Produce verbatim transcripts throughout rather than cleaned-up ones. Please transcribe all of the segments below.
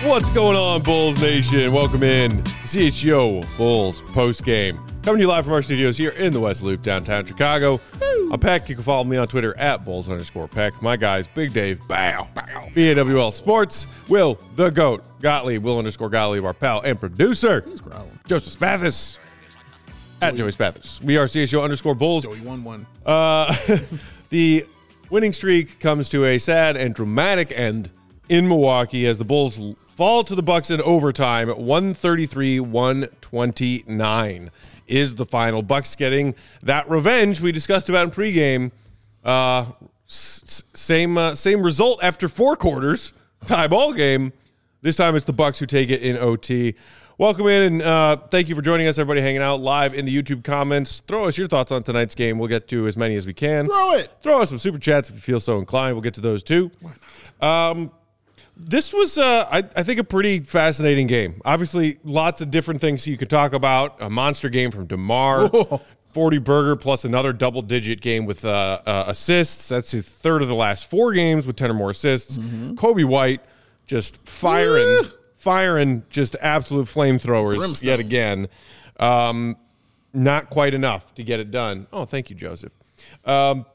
What's going on, Bulls Nation? Welcome in to C H G O Bulls postgame. Coming to you live from our studios here in the West Loop, downtown Chicago. Woo. I'm Peck. You can follow me on Twitter at Bulls underscore Peck. My guys, Big Dave, Bow, Bow, B A W L Sports, Will, the GOAT, Gottlieb, Will underscore Gottlieb, our pal and producer, Joseph Spathis, at Joey Spathis. We are C H G O underscore Bulls. Joey won one. Uh, the winning streak comes to a sad and dramatic end in Milwaukee as the Bulls fall to the Bucks in overtime at one thirty-three one twenty-nine is the final. Bucks getting that revenge we discussed about in pregame. Uh, s- same uh, same result after four quarters, tie ball game. This time it's the Bucks who take it in O T. Welcome in, and uh, thank you for joining us, everybody hanging out live in the YouTube comments. Throw us your thoughts on tonight's game. We'll get to as many as we can. Throw it. Throw us some super chats if you feel so inclined. We'll get to those too. Um, this was, uh, I, I think, a pretty fascinating game. Obviously, lots of different things you could talk about. A monster game from DeMar, Whoa. forty burger plus another double-digit game with uh, uh, assists. That's the third of the last four games with ten or more assists. Mm-hmm. Coby White just firing. Woo. Firing just absolute flamethrowers Brimstone. yet again. Um, not quite enough to get it done. Oh, thank you, Joseph. Um,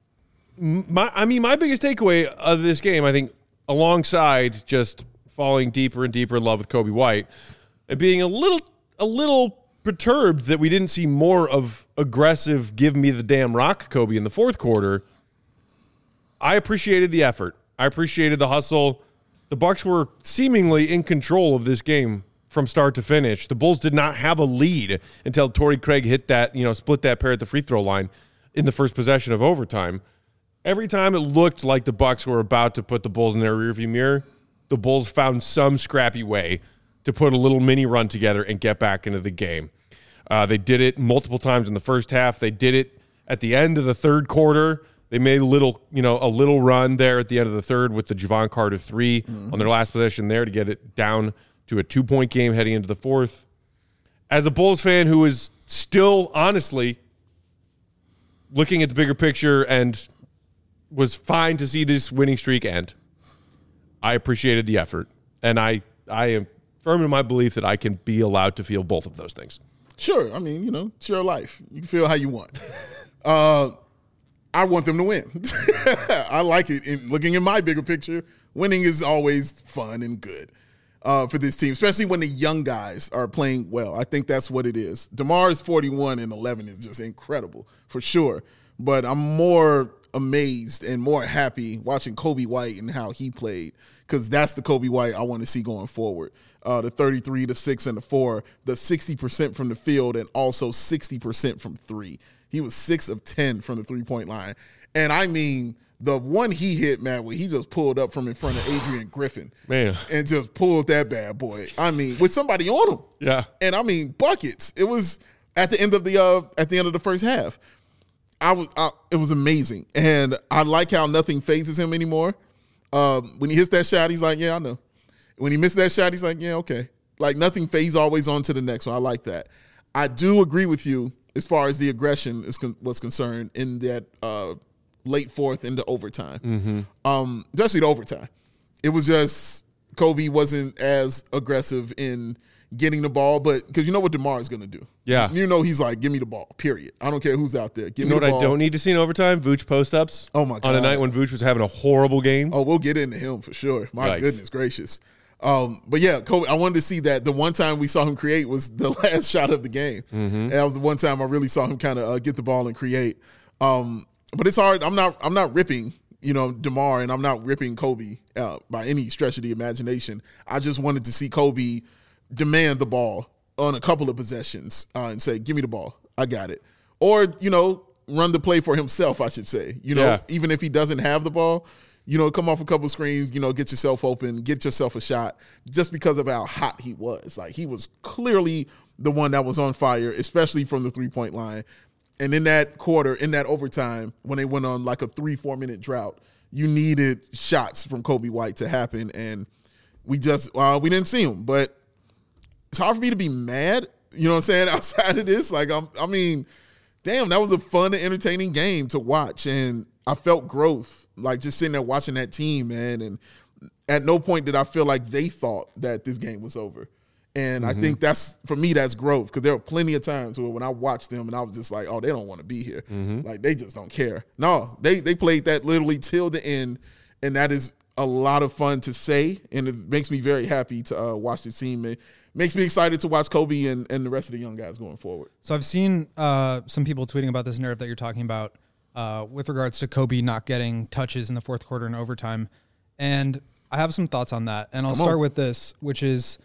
my, I mean, my biggest takeaway of this game, I think, alongside just falling deeper and deeper in love with Coby White and being a little, a little perturbed that we didn't see more of aggressive, give me the damn rock Coby in the fourth quarter. I appreciated the effort. I appreciated the hustle. The Bucks were seemingly in control of this game from start to finish. The Bulls did not have a lead until Torrey Craig hit that, you know, split that pair at the free throw line in the first possession of overtime. Every time it looked like the Bucks were about to put the Bulls in their rearview mirror, the Bulls found some scrappy way to put a little mini run together and get back into the game. Uh, they did it multiple times in the first half. They did it at the end of the third quarter. They made a little, you know, a little run there at the end of the third with the Javon Carter three mm-hmm. on their last possession there to get it down to a two-point game heading into the fourth. As a Bulls fan who is still, honestly, looking at the bigger picture and was fine to see this winning streak end, I appreciated the effort. And I, I am firm in my belief that I can be allowed to feel both of those things. Sure. I mean, you know, it's your life. You can feel how you want. uh I want them to win. I like it. In looking at my bigger picture, winning is always fun and good uh, for this team, especially when the young guys are playing well. I think that's what it is. DeMar's forty-one and eleven is just incredible for sure. But I'm more amazed and more happy watching Coby White and how he played, because that's the Coby White I want to see going forward. Uh, the thirty-three, the six, and the four, the sixty percent from the field and also sixty percent from three. He was six of ten from the three-point line. And, I mean, the one he hit, man, where he just pulled up from in front of Adrian Griffin. Man. And just pulled that bad boy. I mean, with somebody on him. Yeah. And, I mean, buckets. It was at the end of the uh, at the end of the first half. I was I, it was amazing. And I like how nothing phases him anymore. Um, when he hits that shot, he's like, yeah, I know. When he missed that shot, he's like, yeah, okay. Like, nothing phases, always on to the next one. I like that. I do agree with you as far as the aggression is con- was concerned in that uh, late fourth into overtime. Mm-hmm. Um, especially the overtime. It was just Coby wasn't as aggressive in getting the ball, but because you know what DeMar is going to do. Yeah. You know he's like, give me the ball, period. I don't care who's out there. Give you know me the what ball. I don't need to see in overtime? Vooch post-ups. Oh, my God. On a night when Vooch was having a horrible game. Oh, we'll get into him for sure. My Yikes. Goodness gracious. Um, but yeah, Coby, I wanted to see that. The one time we saw him create was the last shot of the game. Mm-hmm. And that was the one time I really saw him kind of uh, get the ball and create. Um, but it's hard. I'm not. I'm not ripping, you know, DeMar, and I'm not ripping Coby uh, by any stretch of the imagination. I just wanted to see Coby demand the ball on a couple of possessions uh, and say, "Give me the ball. I got it." Or you know, run the play for himself. I should say. You know, yeah. even if he doesn't have the ball. You know, come off a couple screens, you know, get yourself open, get yourself a shot, just because of how hot he was. Like, he was clearly the one that was on fire, especially from the three-point line. And in that quarter, in that overtime, when they went on like a three, four-minute drought, you needed shots from Coby White to happen. And we just uh, – we didn't see them. But it's hard for me to be mad, you know what I'm saying, outside of this. Like, I'm, I mean, damn, that was a fun and entertaining game to watch. And I felt growth. Like, just sitting there watching that team, man, and at no point did I feel like they thought that this game was over. And mm-hmm. I think that's, for me, that's growth, because there were plenty of times where when I watched them and I was just like, oh, they don't want to be here. Mm-hmm. Like, they just don't care. No, they they played that literally till the end, and that is a lot of fun to say, and it makes me very happy to uh, watch the team. It makes me excited to watch Kobe and, and the rest of the young guys going forward. So I've seen uh, some people tweeting about this narrative that you're talking about uh, with regards to Kobe not getting touches in the fourth quarter and overtime, and I have some thoughts on that. And I'll Come start on. with this, which is –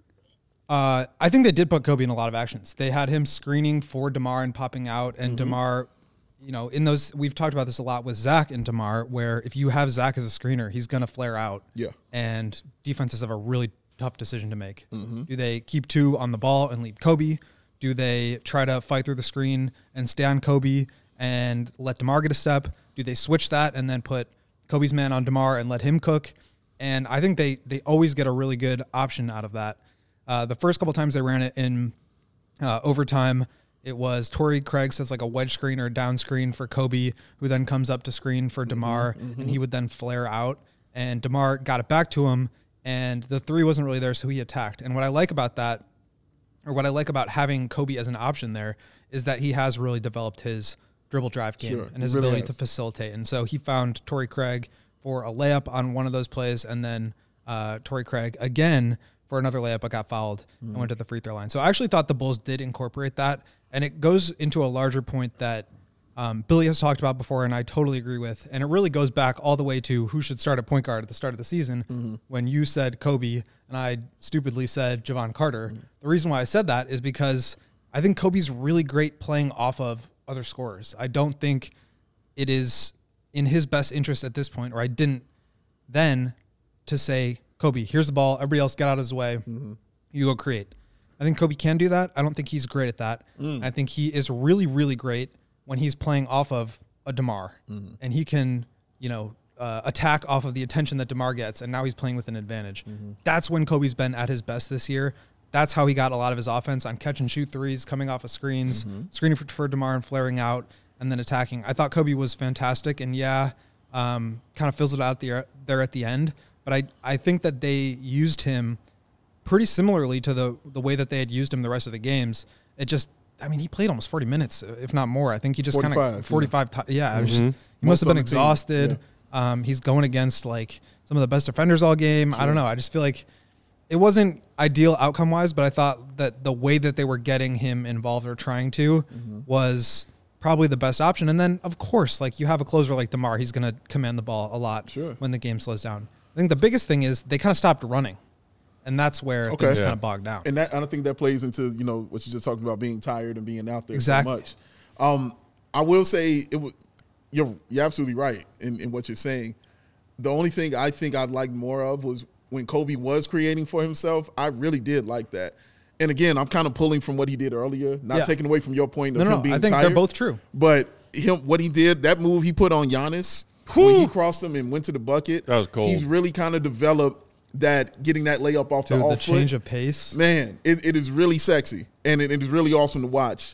Uh, I think they did put Kobe in a lot of actions. They had him screening for DeMar and popping out, and mm-hmm. DeMar, you know, in those, we've talked about this a lot with Zach and DeMar, where if you have Zach as a screener, he's going to flare out. Yeah. And defenses have a really tough decision to make. Mm-hmm. Do they keep two on the ball and leave Kobe? Do they try to fight through the screen and stay on Kobe and let DeMar get a step? Do they switch that and then put Kobe's man on DeMar and let him cook? And I think they, they always get a really good option out of that. Uh, the first couple times they ran it in uh, overtime, it was Torrey Craig sets like a wedge screen or a down screen for Kobe, who then comes up to screen for DeMar, mm-hmm, mm-hmm. and he would then flare out. And DeMar got it back to him, and the three wasn't really there, so he attacked. And what I like about that, or what I like about having Kobe as an option there, is that he has really developed his dribble drive game sure, and his really ability has. to facilitate. And so he found Torrey Craig for a layup on one of those plays, and then uh, Torrey Craig again for another layup, but got fouled mm. and went to the free throw line. So I actually thought the Bulls did incorporate that, and it goes into a larger point that um, Billy has talked about before, and I totally agree with, and it really goes back all the way to who should start at point guard at the start of the season mm-hmm. when you said Kobe, and I stupidly said Javon Carter. Mm. The reason why I said that is because I think Kobe's really great playing off of other scorers. I don't think it is in his best interest at this point, or I didn't then, to say, Kobe, here's the ball. Everybody else get out of his way. Mm-hmm. You go create. I think Kobe can do that. I don't think he's great at that. Mm. I think he is really, really great when he's playing off of a DeMar. Mm-hmm. And he can, you know, uh, attack off of the attention that DeMar gets, and now he's playing with an advantage. Mm-hmm. That's when Kobe's been at his best this year. That's how he got a lot of his offense, on catch and shoot threes, coming off of screens, mm-hmm. screening for, for DeMar and flaring out, and then attacking. I thought Kobe was fantastic, and yeah, um, kind of fizzled out there, there at the end. But I, I think that they used him pretty similarly to the the way that they had used him the rest of the games. It just, I mean, he played almost forty minutes, if not more. I think he just kind of forty-five. Yeah, t- yeah mm-hmm. it was just, he must have been exhausted. Yeah. Um, he's going against like some of the best defenders all game. Sure. I don't know. I just feel like it wasn't ideal outcome wise, but I thought that the way that they were getting him involved or trying to mm-hmm. was probably the best option. And then, of course, like you have a closer like DeMar, he's going to command the ball a lot sure. when the game slows down. I think the biggest thing is they kind of stopped running, and that's where okay. things yeah. kind of bogged down. And that, I don't think that plays into, you know, what you just talked about, being tired and being out there exactly. so much. Um, I will say it w- you're you're absolutely right in, in what you're saying. The only thing I think I'd like more of was when Kobe was creating for himself. I really did like that. And again, I'm kind of pulling from what he did earlier, not yeah. taking away from your point of no, him no, being I think tired. They're both true. But him, what he did, that move he put on Giannis, when he crossed him and went to the bucket, that was cold. He's really kind of developed that, getting that layup off Dude, the off the foot. change of pace. Man, it, it is really sexy, and it, it is really awesome to watch.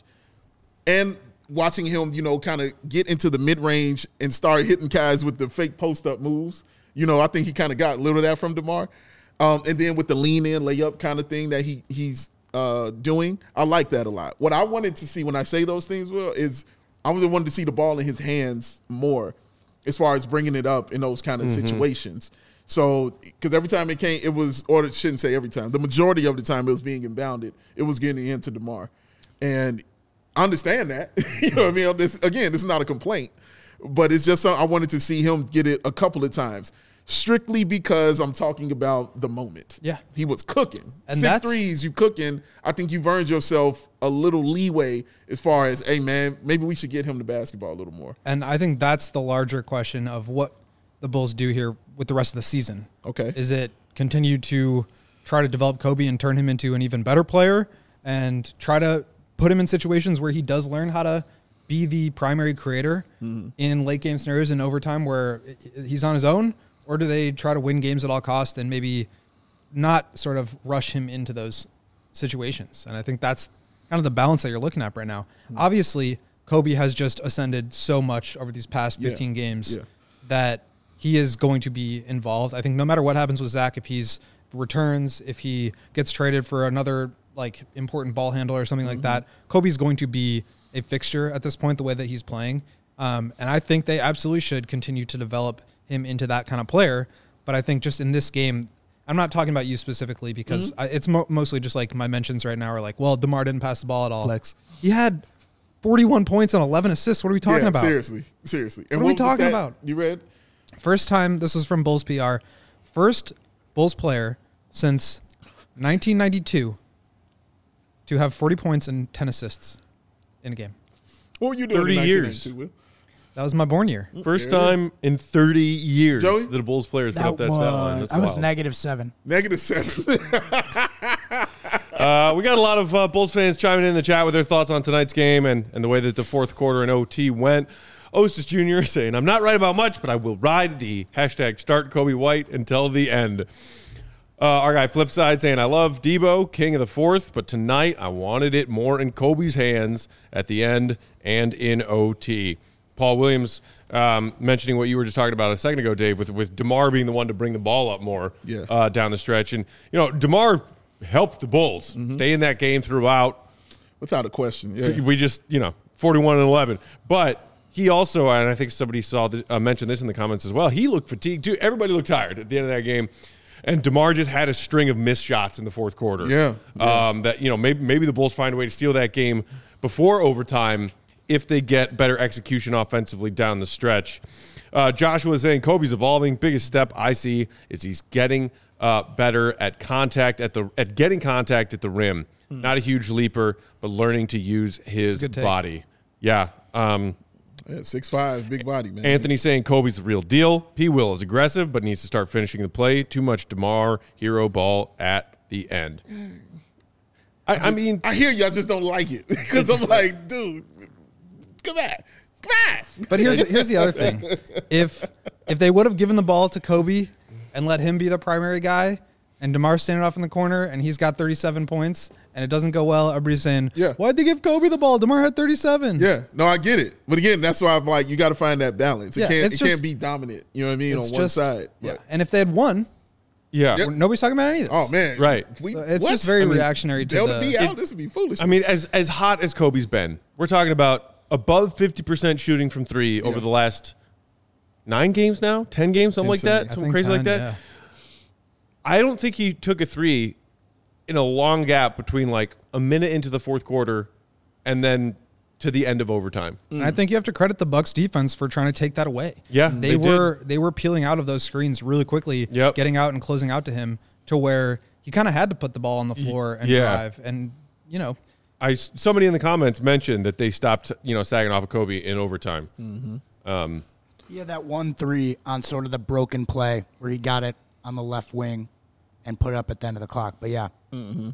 And watching him, you know, kind of get into the mid-range and start hitting guys with the fake post-up moves. You know, I think he kind of got a little of that from DeMar. Um, and then with the lean-in layup kind of thing that he he's uh, doing, I like that a lot. What I wanted to see when I say those things, Will, is I was wanted to see the ball in his hands more, as far as bringing it up in those kind of mm-hmm. situations. So, because every time it came, it was, or it shouldn't say every time, the majority of the time it was being inbounded, it was getting into DeMar. And I understand that. You know what I mean? This, again, this is not a complaint, but it's just something I wanted to see him get it a couple of times, strictly because I'm talking about the moment. Yeah. He was cooking. And Six threes, you cooking. I think you've earned yourself a little leeway as far as, hey, man, maybe we should get him the basketball a little more. And I think that's the larger question of what the Bulls do here with the rest of the season. Okay. Is it continue to try to develop Kobe and turn him into an even better player and try to put him in situations where he does learn how to be the primary creator mm-hmm. in late game scenarios in overtime where he's on his own? Or do they try to win games at all costs and maybe not sort of rush him into those situations? And I think that's kind of the balance that you're looking at right now. Mm-hmm. Obviously, Kobe has just ascended so much over these past fifteen yeah. games yeah. that he is going to be involved. I think no matter what happens with Zach, if he's returns, if he gets traded for another like important ball handler or something mm-hmm. like that, Kobe's going to be a fixture at this point, the way that he's playing. Um, and I think they absolutely should continue to develop him into that kind of player. But I think just in this game, I'm not talking about you specifically because mm-hmm. I, it's mo- mostly just like my mentions right now are like, well, DeMar didn't pass the ball at all. Flex. He had forty-one points and eleven assists. What are we talking yeah, about? Seriously, seriously. And what are we talking about? You read? First time, this was from Bulls P R, first Bulls player since nineteen ninety-two to have forty points and ten assists in a game. What were you doing thirty in years. Will? That was my born year. First time in thirty years Joey? that a Bulls player has put That up that was, stat line. That's I was wild. negative seven. Negative seven. Uh, we got a lot of uh, Bulls fans chiming in the chat with their thoughts on tonight's game and, and the way that the fourth quarter and O T went. Ostis Junior saying, I'm not right about much, but I will ride the hashtag start Kobe White until the end. Uh, our guy Flipside saying, I love Debo, king of the fourth, but tonight I wanted it more in Kobe's hands at the end and in O T. Paul Williams um, mentioning what you were just talking about a second ago, Dave, with, with DeMar being the one to bring the ball up more yeah. uh, down the stretch. And, you know, DeMar helped the Bulls mm-hmm. stay in that game throughout. Without a question, yeah. We just, you know, forty-one and eleven. But he also, and I think somebody saw the, uh, mentioned this in the comments as well, he looked fatigued too. Everybody looked tired at the end of that game. And DeMar just had a string of missed shots in the fourth quarter. Yeah. yeah. Um, that, you know, maybe maybe the Bulls find a way to steal that game before overtime if they get better execution offensively down the stretch. Uh, Joshua is saying Kobe's evolving. Biggest step I see is he's getting uh, better at contact at the at getting contact at the rim. Mm. Not a huge leaper, but learning to use his body. Yeah. Um, yeah, six five, big body, man. Anthony saying Kobe's the real deal. P. Will is aggressive, but needs to start finishing the play. Too much DeMar hero ball at the end. I, I, just, I mean, I hear you. I just don't like it because I'm like, dude, come back, come back. But here's here's the other thing: if if they would have given the ball to Kobe and let him be the primary guy, and DeMar's standing off in the corner and he's got thirty-seven points and it doesn't go well, everybody's saying, yeah. why'd they give Kobe the ball? DeMar had thirty-seven. Yeah, no, I get it. But again, that's why I'm like, you got to find that balance. It yeah, can't it just, can't be dominant. You know what I mean on one just, side. Yeah, but. and if they had won, yeah, Yep. nobody's talking about any of this. Oh man, right? We, so it's what? just very I mean, reactionary to Delta the. B out. It, this would be foolish. I mean, as as hot as Kobe's been, we're talking about above fifty percent shooting from three over yeah. the last nine games now, ten games, something like that, something crazy ten, like that. Yeah. I don't think he took a three in a long gap between like a minute into the fourth quarter and then to the end of overtime. And I think you have to credit the Bucks defense for trying to take that away. Yeah, they, they were did. they were peeling out of those screens really quickly, yep. getting out and closing out to him to where he kind of had to put the ball on the floor and yeah. drive. And you know, I somebody in the comments mentioned that they stopped, you know, sagging off of Kobe in overtime. Mm-hmm. Um, he had that one three on sort of the broken play where he got it on the left wing and put it up at the end of the clock. But yeah. Mm-hmm.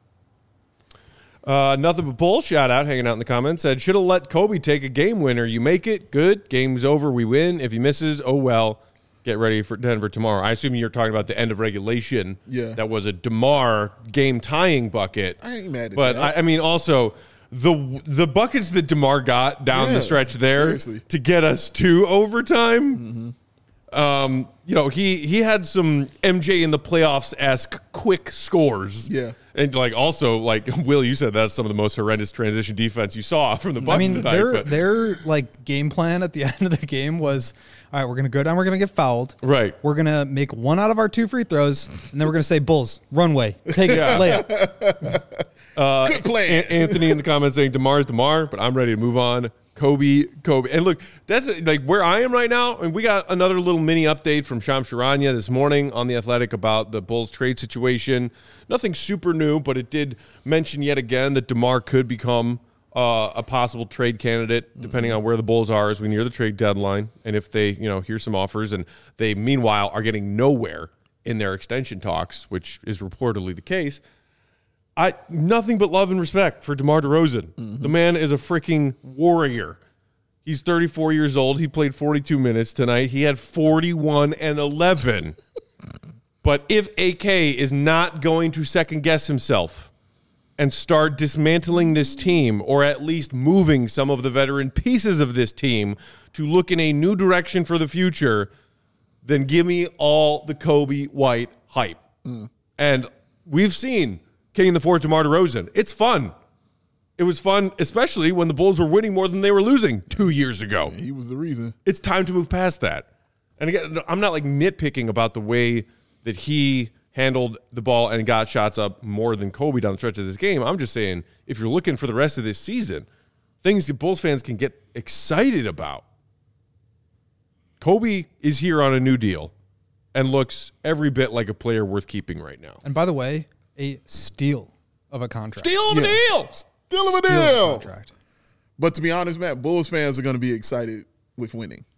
Uh, nothing but bull shout out hanging out in the comments said should have let Kobe take a game winner. You make it good. Game's over. We win. If he misses, oh well. Get ready for Denver tomorrow. I assume you're talking about the end of regulation. Yeah, that was a DeMar game tying bucket. I ain't mad at but that. But I, I mean, also the the buckets that DeMar got down yeah, the stretch there seriously. to get us to overtime. Mm-hmm. Um, you know, he he had some M J in the playoffs-esque quick scores. Yeah. And like also like Will, you said that's some of the most horrendous transition defense you saw from the Bucks I mean, tonight. their but. their like game plan at the end of the game was, all right, we're gonna go down, we're gonna get fouled, right? We're gonna make one out of our two free throws, and then we're gonna say, Bulls, runway, take it, Yeah. layup. Uh, Good plan. A- Anthony in the comments saying DeMar's DeMar, but I'm ready to move on. Kobe, Kobe. And look, that's like where I am right now. And we got another little mini update from Shams Charania this morning on The Athletic about the Bulls trade situation. Nothing super new, but it did mention yet again that DeMar could become uh, a possible trade candidate, depending mm-hmm. on where the Bulls are as we near the trade deadline. And if they, you know, hear some offers and they, meanwhile, are getting nowhere in their extension talks, which is reportedly the case. I nothing but love and respect for DeMar DeRozan. Mm-hmm. The man is a freaking warrior. He's thirty-four years old. He played forty-two minutes tonight. He had forty-one and eleven. But if A K is not going to second guess himself and start dismantling this team, or at least moving some of the veteran pieces of this team to look in a new direction for the future, then give me all the Coby White hype. Mm. And we've seen King of the Fort DeMar DeRozan. It's fun. It was fun, especially when the Bulls were winning more than they were losing two years ago. He was the reason. It's time to move past that. And again, I'm not like nitpicking about the way that he handled the ball and got shots up more than Coby down the stretch of this game. I'm just saying, if you're looking for the rest of this season, things that Bulls fans can get excited about. Coby is here on a new deal and looks every bit like a player worth keeping right now. And by the way, a steal of a contract. Steal of a Yeah. deal! Still of a Steal of a deal. contract. But to be honest, Matt, Bulls fans are going to be excited with winning.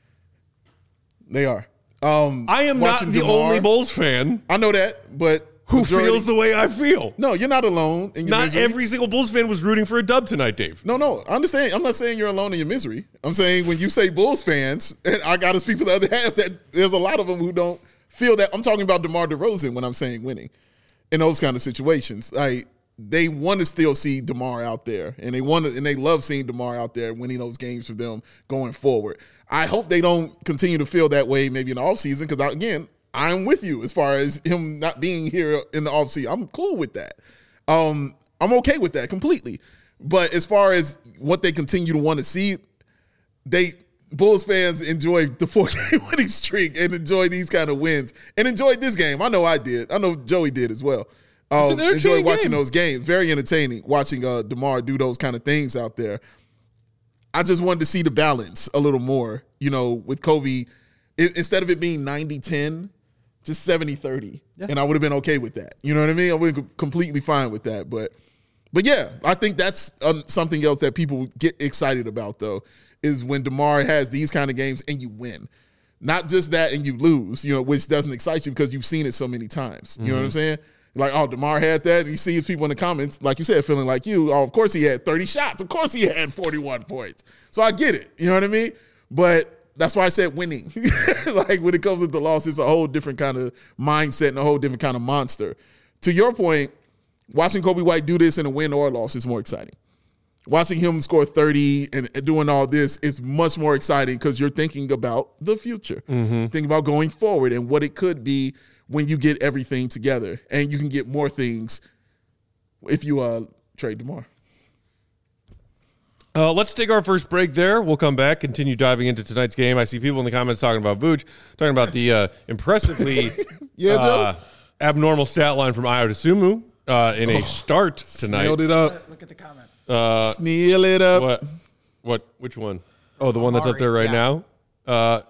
They are. Um, I am not watching the DeMar, only Bulls fan I know that, but who majority- feels the way I feel. No, you're not alone in your Not misery. every single Bulls fan was rooting for a dub tonight, Dave. No, no, I understand. I'm not saying you're alone in your misery. I'm saying when you say Bulls fans, and I got to speak for the other half, that there's a lot of them who don't feel that. I'm talking about DeMar DeRozan when I'm saying winning in those kind of situations. Like, they want to still see DeMar out there, and they want to, and they love seeing DeMar out there winning those games for them going forward. I hope they don't continue to feel that way maybe in the offseason because, again, I'm with you as far as him not being here in the offseason. I'm cool with that. Um, I'm okay with that completely. But as far as what they continue to want to see, they Bulls fans enjoy the four-game winning streak and enjoy these kind of wins and enjoyed this game. I know I did. I know Joey did as well. Um, an entertaining enjoy watching game. those games. Very entertaining watching uh, DeMar do those kind of things out there. I just wanted to see the balance a little more, you know, with Coby. It, instead of it being ninety ten, just seventy thirty. Yeah. And I would have been okay with that. You know what I mean? I would have been completely fine with that. But, but yeah, I think that's um, something else that people get excited about, though, is when DeMar has these kind of games and you win. Not just that and you lose, you know, which doesn't excite you because you've seen it so many times. You mm-hmm. know what I'm saying? Like, oh, DeMar had that. And you see people in the comments, like you said, feeling like you. Oh, of course he had thirty shots. Of course he had forty-one points. So I get it. You know what I mean? But that's why I said winning. Like, when it comes with the loss, it's a whole different kind of mindset and a whole different kind of monster. To your point, watching Coby White do this in a win or a loss is more exciting. Watching him score thirty and doing all this is much more exciting because you're thinking about the future. Mm-hmm. Thinking about going forward and what it could be when you get everything together. And you can get more things if you uh, trade DeMar. Uh, let's take our first break there. We'll come back, continue diving into tonight's game. I see people in the comments talking about Vooch, talking about the uh, impressively yeah, uh, abnormal stat line from Ayo Dosunmu uh, in a oh, start tonight. Nailed it up. Look at the comment. Uh, Snail it up. What? What? Which one? Oh, the one that's up there right yeah. now? Uh,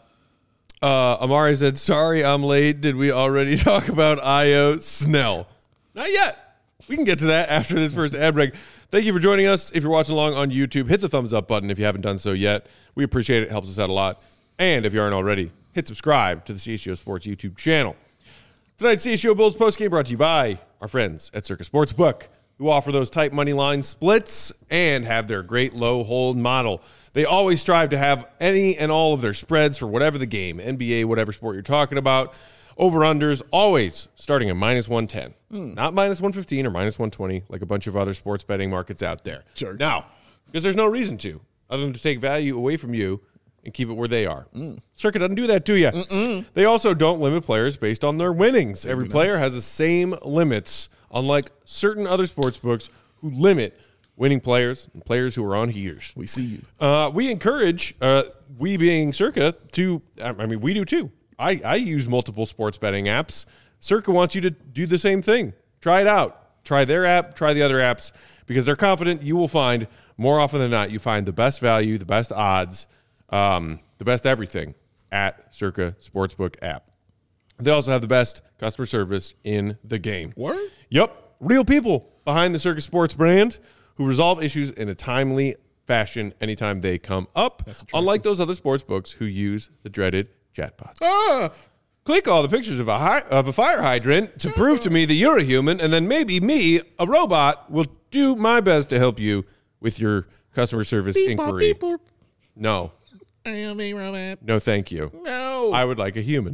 uh, Amari said, sorry, I'm late. Did we already talk about Ayo Snell? Not yet. We can get to that after this first ad break. Thank you for joining us. If you're watching along on YouTube, hit the thumbs up button if you haven't done so yet. We appreciate it. It helps us out a lot. And if you aren't already, hit subscribe to the C H G O Sports YouTube channel. Tonight's C H G O Bulls postgame brought to you by our friends at Circa Sportsbook, who offer those tight money line splits and have their great low hold model. They always strive to have any and all of their spreads for whatever the game, N B A, whatever sport you're talking about. Over-unders, always starting at minus one ten. Mm. Not minus one fifteen or minus one twenty like a bunch of other sports betting markets out there. Jerks. Now, because there's no reason to, other than to take value away from you and keep it where they are. Mm. Circa doesn't do that to you. Mm-mm. They also don't limit players based on their winnings. Every player has the same limits, unlike certain other sports books who limit winning players and players who are on heaters. We see you. Uh, we encourage, uh, we being Circa, to, I mean, we do too. I, I use multiple sports betting apps. Circa wants you to do the same thing. Try it out. Try their app, try the other apps, because they're confident you will find, more often than not, you find the best value, the best odds, um, the best everything at Circa Sportsbook app. They also have the best customer service in the game. What? Yep. Real people behind the Circa Sports brand who resolve issues in a timely fashion anytime they come up, unlike those other sports books who use the dreaded chatbots. Ah, click all the pictures of a hi- of a fire hydrant to prove to me that you're a human, and then maybe me, a robot, will do my best to help you with your customer service beep, inquiry. Beep, boop. No. I am a robot. No, thank you. No. I would like a human.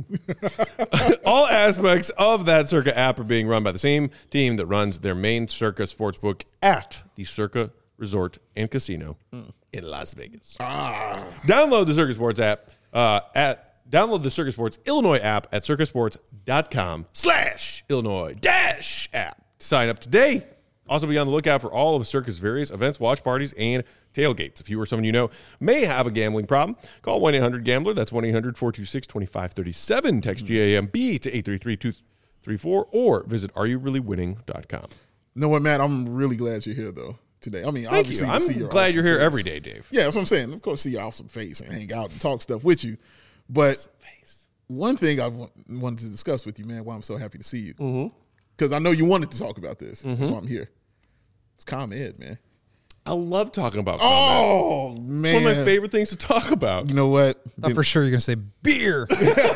All aspects of that Circa app are being run by the same team that runs their main Circa Sportsbook at the Circa Resort and Casino mm. in Las Vegas. Ah. Download the Circa Sports app uh, at Download the Circus Sports Illinois app at circusports.com slash Illinois dash app. Sign up today. Also be on the lookout for all of Circus' various events, watch parties, and tailgates. If you or someone you know may have a gambling problem, call one eight hundred gambler. That's one eight hundred four two six two five three seven. Text G A M B to eight three three two three four or visit are you really winning dot com. You know what, Matt? I'm really glad you're here, though, today. I mean, Thank obviously, you. to see I'm your glad awesome you're here face. every day, Dave. Yeah, that's what I'm saying. Of course, see your awesome face and hang out and talk stuff with you. But one thing I w- wanted to discuss with you, man, why I'm so happy to see you. Because mm-hmm. I know you wanted to talk about this. Mm-hmm. That's why I'm here. It's ComEd, man. I love talking about ComEd. Oh, man. It's one of my favorite things to talk about. You know what? Thought for sure you're going to say beer.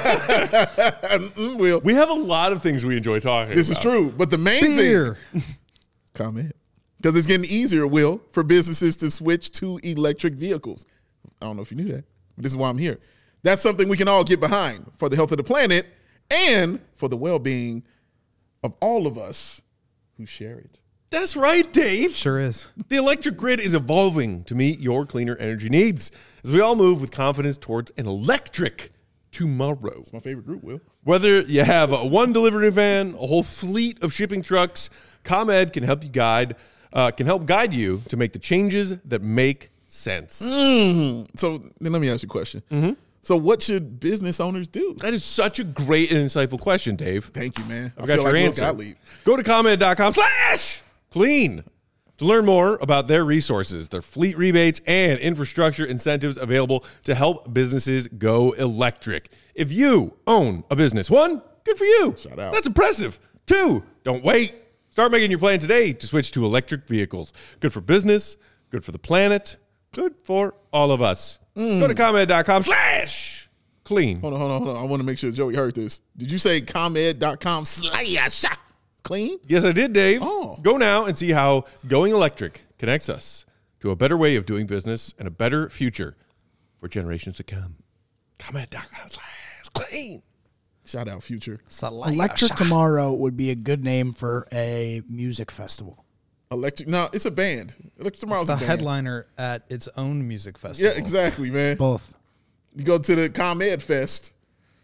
Will. We have a lot of things we enjoy talking This about. is true. But the main Beer. thing, ComEd. Because it's getting easier, Will, for businesses to switch to electric vehicles. I don't know if you knew that, but this is why I'm here. That's something we can all get behind for the health of the planet and for the well-being of all of us who share it. That's right, Dave. Sure is. The electric grid is evolving to meet your cleaner energy needs as we all move with confidence towards an electric tomorrow. It's my favorite group, Will. Whether you have a one delivery van, a whole fleet of shipping trucks, ComEd can help you guide, uh, can help guide you to make the changes that make sense. Mm. So then let me ask you a question. Mm-hmm. So what should business owners do? That is such a great and insightful question, Dave. Thank you, man. I've I got feel your like Will answer. Gottlieb. Go to ComEd.com slash clean to learn more about their resources, their fleet rebates, and infrastructure incentives available to help businesses go electric. If you own a business, one, good for you. Shout out. That's impressive. Two, don't wait. Start making your plan today to switch to electric vehicles. Good for business, good for the planet, good for all of us. Mm. Go to ComEd.com slash clean. Hold on, hold on, hold on. I want to make sure Joey heard this. Did you say ComEd.com slash clean? Yes, I did, Dave. Oh. Go now and see how going electric connects us to a better way of doing business and a better future for generations to come. ComEd.com slash clean. Shout out, Future. Electric Tomorrow would be a good name for a music festival. Electric. No, it's a band. Electric Tomorrow's It's a a band. headliner at its own music festival. Yeah, exactly, man. Both. You go to the ComEd Fest,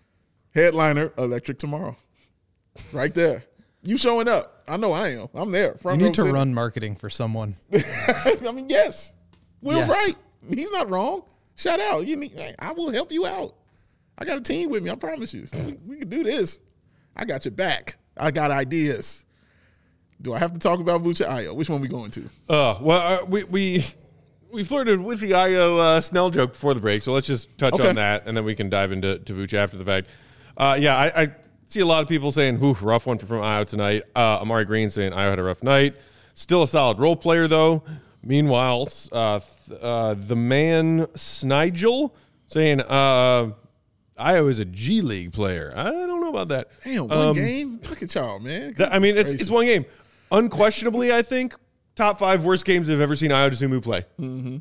headliner, Electric Tomorrow. Right there. You showing up. I know I am. I'm there. You Front need row to center. run marketing for someone. I mean, yes. Will's Yes. right. He's not wrong. Shout out. You need, I will help you out. I got a team with me. I promise you. We, we can do this. I got your back. I got ideas. Do I have to talk about Vucha Ayo? Which one we going to? Uh, well, uh, we we we flirted with the Io uh, Snell joke before the break, so let's just touch Okay. on that, and then we can dive into to Vucha after the fact. Uh, yeah, I, I see a lot of people saying, "Whew, rough one from Io tonight." Uh, Amari Green saying Io had a rough night. Still a solid role player though. Meanwhile, uh, th- uh, the man Snigel saying uh, Io is a G League player. I don't know about that. Damn, one Um, game? Look at y'all, man. That- I mean, it's Gracious. it's one game. Unquestionably, I think top five worst games I've ever seen Ayo Dosunmu play. Mm-hmm.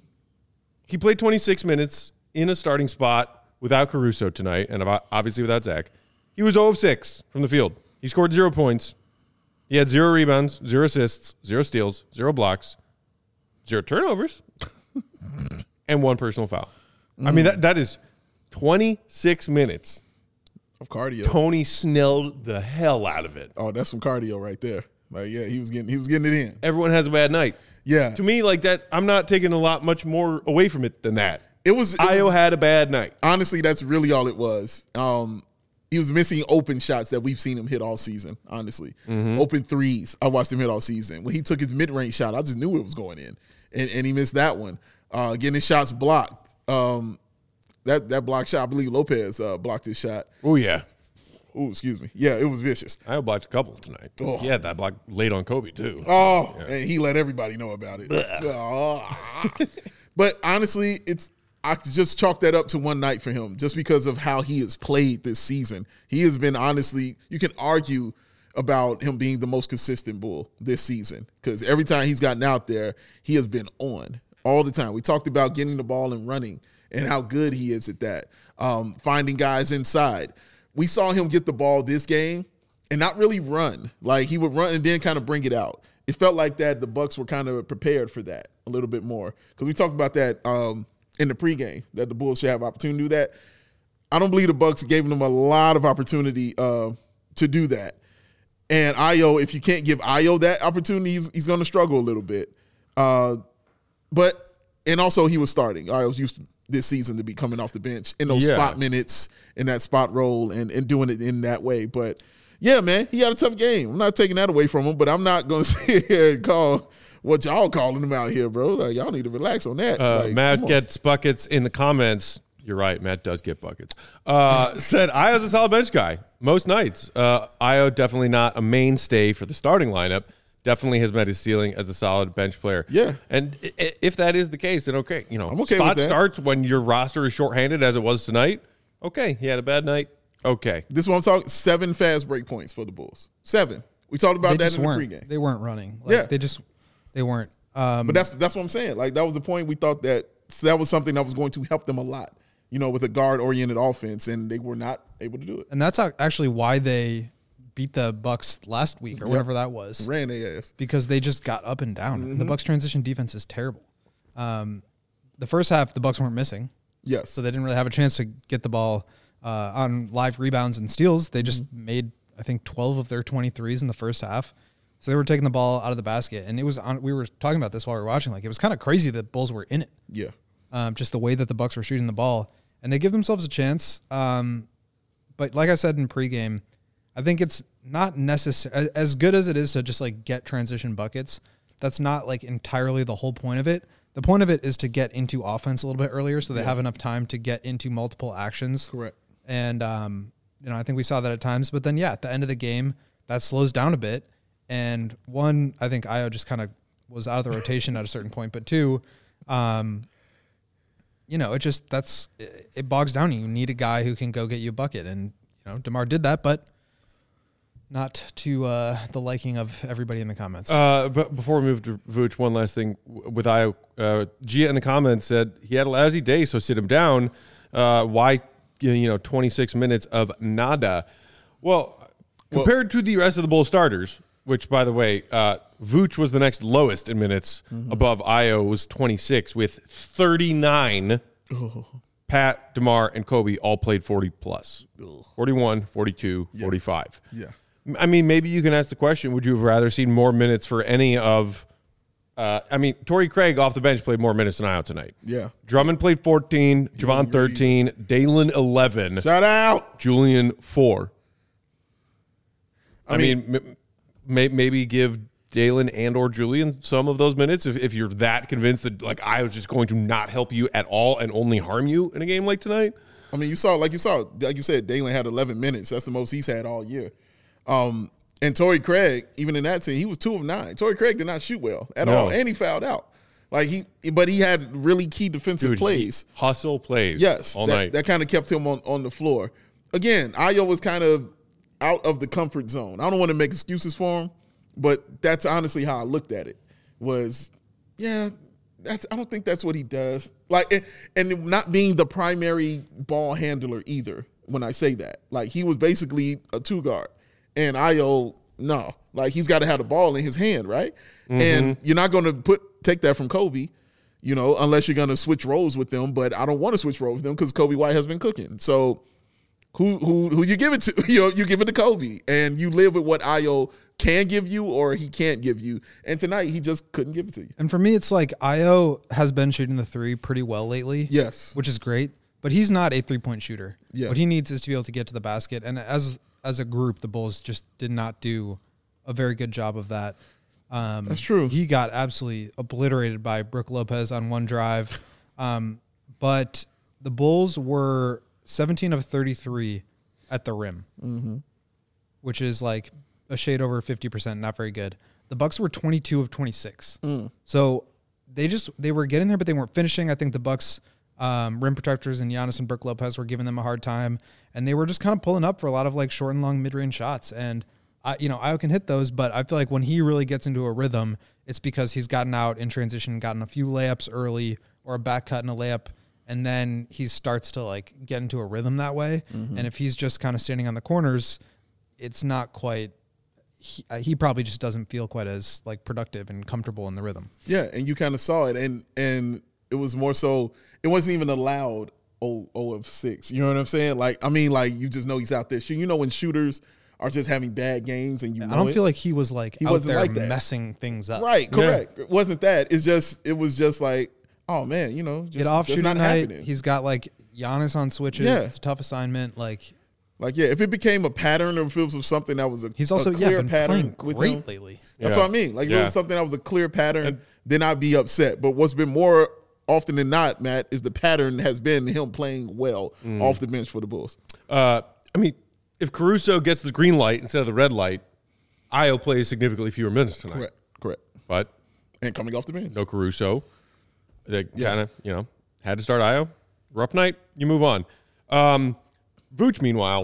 He played twenty-six minutes in a starting spot without Caruso tonight, and obviously without Zach. He was zero of six from the field. He scored zero points. He had zero rebounds, zero assists, zero steals, zero blocks, zero turnovers, and one personal foul. I mean, that that is twenty-six minutes. Of cardio. Tony Snelled the hell out of it. Oh, that's some cardio right there. Like, yeah, he was getting he was getting it in. Everyone has a bad night. Yeah. To me, like that, I'm not taking a lot much more away from it than that. It was, it Io was had a bad night. honestly, that's really all it was. Um, he was missing open shots that we've seen him hit all season, honestly. Open threes. I watched him hit all season. When he took his mid-range shot, I just knew it was going in. And, and he missed that one. Uh, getting his shots blocked. Um, that that block shot, I believe Lopez uh, blocked his shot. Oh yeah, Oh, excuse me. Yeah, it was vicious. Io blocked a couple tonight. Oh. He had that block late on Kobe too. Oh, and he let everybody know about it. Oh. But honestly, it's I just chalk that up to one night for him, just because of how he has played this season. He has been, honestly, you can argue about him being the most consistent Bull this season, because every time he's gotten out there, he has been on all the time. We talked about getting the ball and running and how good he is at that, um, finding guys inside. We saw him get the ball this game and not really run. Like, he would run and then kind of bring it out. It felt like that the Bucks were kind of prepared for that a little bit more, because we talked about that um, in the pregame, that the Bulls should have opportunity to do that. I don't believe the Bucks gave them a lot of opportunity uh, to do that. And Ayo, if you can't give Ayo that opportunity, he's, he's going to struggle a little bit. Uh, but and also he was starting. Ayo's used to, this season to be coming off the bench in those Yeah. spot minutes, in that spot role, and, and doing it in that way. But yeah, man, he had a tough game. I'm not taking that away from him, but I'm not going to sit here and call what y'all calling him out here, bro. Like, y'all need to relax on that. Uh, like, Matt come on. gets buckets in the comments. You're right. Matt does get buckets. Uh, said Io's a solid bench guy most nights. Uh, Io definitely not a mainstay for the starting lineup. Definitely has met his ceiling as a solid bench player. Yeah. And i- if that is the case, then okay. You know, I'm okay spot with that. starts when your roster is shorthanded as it was tonight. Okay. He had a bad night. Okay. This is what I'm talking. Seven fast break points for the Bulls. Seven. We talked about They that just in the weren't. pregame. They weren't running. Like, Yeah. They just they weren't. Um, But that's that's what I'm saying. Like, that was the point. We thought that that was something that was going to help them a lot, you know, with a guard-oriented offense, and they were not able to do it. and that's ac- actually why they beat the Bucks last week or whatever that was. Ran their ass. Because they just got up and down. Mm-hmm. And the Bucks transition defense is terrible. Um, the first half, the Bucks weren't missing, Yes. so they didn't really have a chance to get the ball uh, on live rebounds and steals. They just Mm-hmm. made, I think, twelve of their twenty-threes in the first half. So they were taking the ball out of the basket, and it was on. We were talking about this while we were watching. Like, it was kind of crazy that Bulls were in it. Yeah. Um, just the way that the Bucks were shooting the ball, and they give themselves a chance. Um, but like I said in pregame, I think it's not necessary as good as it is to just like get transition buckets. That's not like entirely the whole point of it. The point of it is to get into offense a little bit earlier, so they have enough time to get into multiple actions. Correct. And um, you know, I think we saw that at times. But then, yeah, at the end of the game, that slows down a bit. And one, I think Io just kind of was out of the rotation at a certain point. But two, um, you know, it just that's it, it bogs down. You need a guy who can go get you a bucket, and you know, DeMar did that, but not to uh, the liking of everybody in the comments. Uh, but before we move to Vooch, one last thing w- with Io. Uh, Gia in the comments said he had a lousy day, so sit him down. Uh, why, you know, twenty-six minutes of nada? Well, compared to the rest of the Bulls starters, which, by the way, uh, Vooch was the next lowest in minutes above Io was twenty-six with thirty-nine. Pat, DeMar, and Kobe all played forty plus. forty-one, forty-two, forty-five. Yeah. I mean, maybe you can ask the question, would you have rather seen more minutes for any of uh, I mean, Torrey Craig off the bench played more minutes than Io tonight. Yeah. Drummond played fourteen, Javon thirteen, Dalen eleven, Shout out. Julian four. I, I mean, mean- m- may, maybe give Dalen and or Julian some of those minutes if, if you're that convinced that like I was just going to not help you at all and only harm you in a game like tonight. I mean, you saw, like you saw, like you said, Dalen had eleven minutes. That's the most he's had all year. Um, and Torrey Craig, even in that scene, he was two of nine. Torrey Craig did not shoot well at No. all, and he fouled out. Like he, but he had really key defensive Dude, plays. he- hustle plays. Yes, all that, night. that kind of kept him on, on the floor. Again, Ayo was kind of out of the comfort zone. I don't want to make excuses for him, but that's honestly how I looked at it. Was yeah, that's I don't think that's what he does. Like and, and not being the primary ball handler either. When I say that, like he was basically a two guard, and Ayo no, like he's got to have the ball in his hand, right? Mm-hmm. And you're not going to put take that from Kobe. You know, unless you're going to switch roles with them, but I don't want to switch roles with them because Kobe White has been cooking. So, who who who you give it to? You know, you give it to Kobe, and you live with what Ayo can give you or he can't give you. And tonight, he just couldn't give it to you. And for me, it's like Io has been shooting the three pretty well lately. Yes. Which is great, but he's not a three point shooter. Yeah. What he needs is to be able to get to the basket. And as as a group, the Bulls just did not do a very good job of that. Um, That's true. He got absolutely obliterated by Brook Lopez on one drive. Um, but the Bulls were seventeen of thirty-three at the rim, mm-hmm. which is like a shade over fifty percent, not very good. The Bucks were twenty-two of twenty-six. Mm. So they just they were getting there, but they weren't finishing. I think the Bucks um, rim protectors and Giannis and Brook Lopez were giving them a hard time, and they were just kind of pulling up for a lot of like short and long mid range shots. And I, you know, Io can hit those, but I feel like when he really gets into a rhythm, it's because he's gotten out in transition, gotten a few layups early or a back cut and a layup, and then he starts to like get into a rhythm that way. Mm-hmm. And if he's just kind of standing on the corners, it's not quite. He, uh, he probably just doesn't feel quite as like productive and comfortable in the rhythm. Yeah, and you kind of saw it, and and it was more so. It wasn't even allowed oh, oh of six. You know what I'm saying? Like, I mean, like you just know he's out there shooting. You know when shooters are just having bad games and you know I don't it? feel like he was like He out wasn't there like that. messing things up. Right, correct. It wasn't that. It's just it was just like, oh man, you know, just, Get off just shooting not night. happening. He's got like Giannis on switches. Yeah. It's a tough assignment. Like Like, yeah, if it became a pattern or if it was something that was a, he's also a yeah clear been pattern playing with great him, lately. that's Yeah. what I mean. Like, if Yeah. it was something that was a clear pattern, And- then I'd be upset. But what's been more often than not, Matt, is the pattern has been him playing well Mm. off the bench for the Bulls. Uh, I mean, if Caruso gets the green light instead of the red light, Io plays significantly fewer minutes tonight. Correct, correct. But And coming off the bench. no Caruso. They Yeah. kind of, you know, had to start Io. Rough night. You move on. Um, Vooch, meanwhile.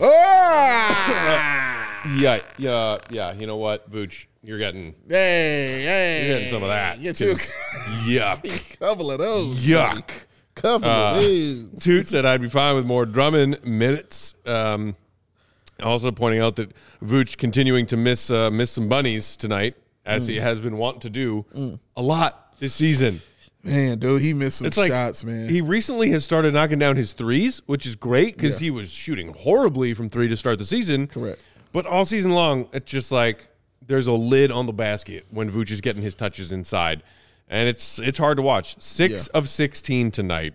Ah! Yeah, yeah, yeah. You know what, Vooch? You're getting, Hey, hey. you're getting some of that. Get you 'cause Yuck. a couple of those. Yuck. buddy. Couple Uh, of these. Toot said I'd be fine with more Drummond minutes. Um, also pointing out that Vooch continuing to miss uh, miss some bunnies tonight, as Mm. he has been wont to do a lot this season. Man, dude, he missed some It's like shots, man. he recently has started knocking down his threes, which is great because Yeah. he was shooting horribly from three to start the season. Correct. But all season long, it's just like there's a lid on the basket when Vooch is getting his touches inside, and it's it's hard to watch. Six Yeah. of sixteen tonight.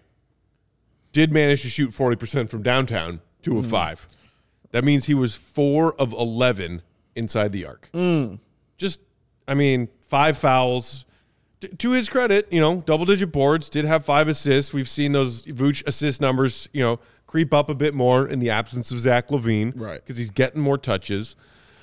Did manage to shoot forty percent from downtown, two Mm. of five. That means he was four of eleven inside the arc. Mm. Just, I mean, five fouls. T- to his credit, you know, double-digit boards, did have five assists. We've seen those Vooch assist numbers, you know, creep up a bit more in the absence of Zach LaVine. Right. Because he's getting more touches.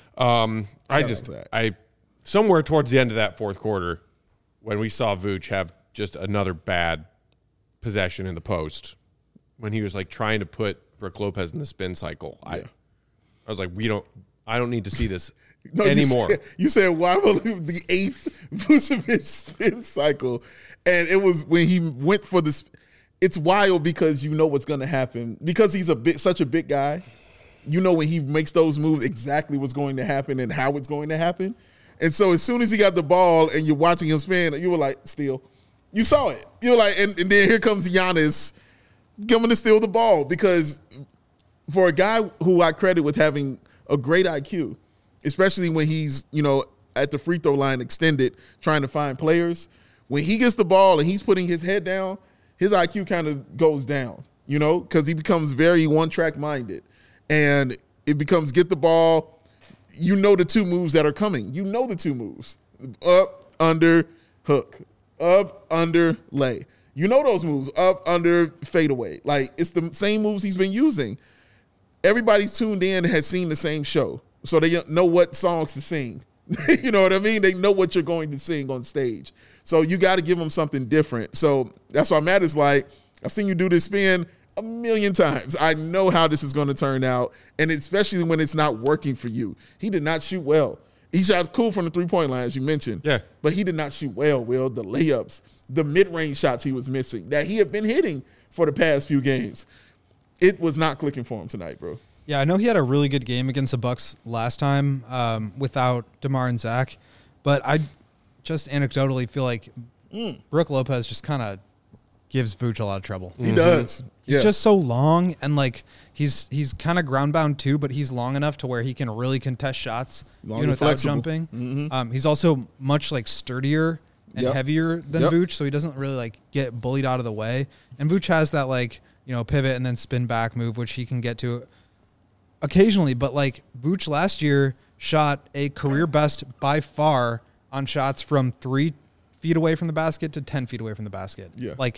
Um, I Shout out just, Zach. I, somewhere towards the end of that fourth quarter, when we saw Vooch have just another bad possession in the post, when he was like trying to put Brook Lopez in the spin cycle, I, I was like, we don't, I don't need to see this No, you anymore. said- You said, why will the eighth Vucevic spin cycle? And it was when he went for this. It's wild because you know what's going to happen. Because he's a bit, such a big guy, you know when he makes those moves exactly what's going to happen and how it's going to happen. And so as soon as he got the ball and you're watching him spin, you were like, steal. You saw it. You were like, and, and then here comes Giannis coming to steal the ball. Because for a guy who I credit with having a great I Q, especially when he's, you know, at the free throw line extended trying to find players, when he gets the ball and he's putting his head down, his I Q kind of goes down, you know, because he becomes very one-track minded. And it becomes get the ball, you know the two moves that are coming. You know the two moves. Up, under, hook. Up, under, lay. You know those moves. Up, under, fadeaway. Like, it's the same moves he's been using. Everybody's tuned in and has seen the same show. So they know what songs to sing. You know what I mean? They know what you're going to sing on stage. So you got to give them something different. So that's why Matt is like, I've seen you do this spin a million times. I know how this is going to turn out, and especially when it's not working for you. He did not shoot well. He shot cool from the three-point line, as you mentioned. Yeah. But he did not shoot well, Will. The layups, the mid-range shots he was missing that he had been hitting for the past few games. It was not clicking for him tonight, bro. Yeah, I know he had a really good game against the Bucks last time um, without DeMar and Zach, but I just anecdotally feel like Mm. Brook Lopez just kind of gives Vooch a lot of trouble. He does. He's Yeah. just so long, and like he's he's kind of ground bound too, but he's long enough to where he can really contest shots Long even and without flexible. jumping. Mhm. Um, he's also much like sturdier and Yep. heavier than Yep. Vooch, so he doesn't really like get bullied out of the way. And Vooch has that like you know pivot and then spin back move, which he can get to occasionally. But like Vooch last year shot a career best by far on shots from three feet away from the basket to ten feet away from the basket. Yeah. Like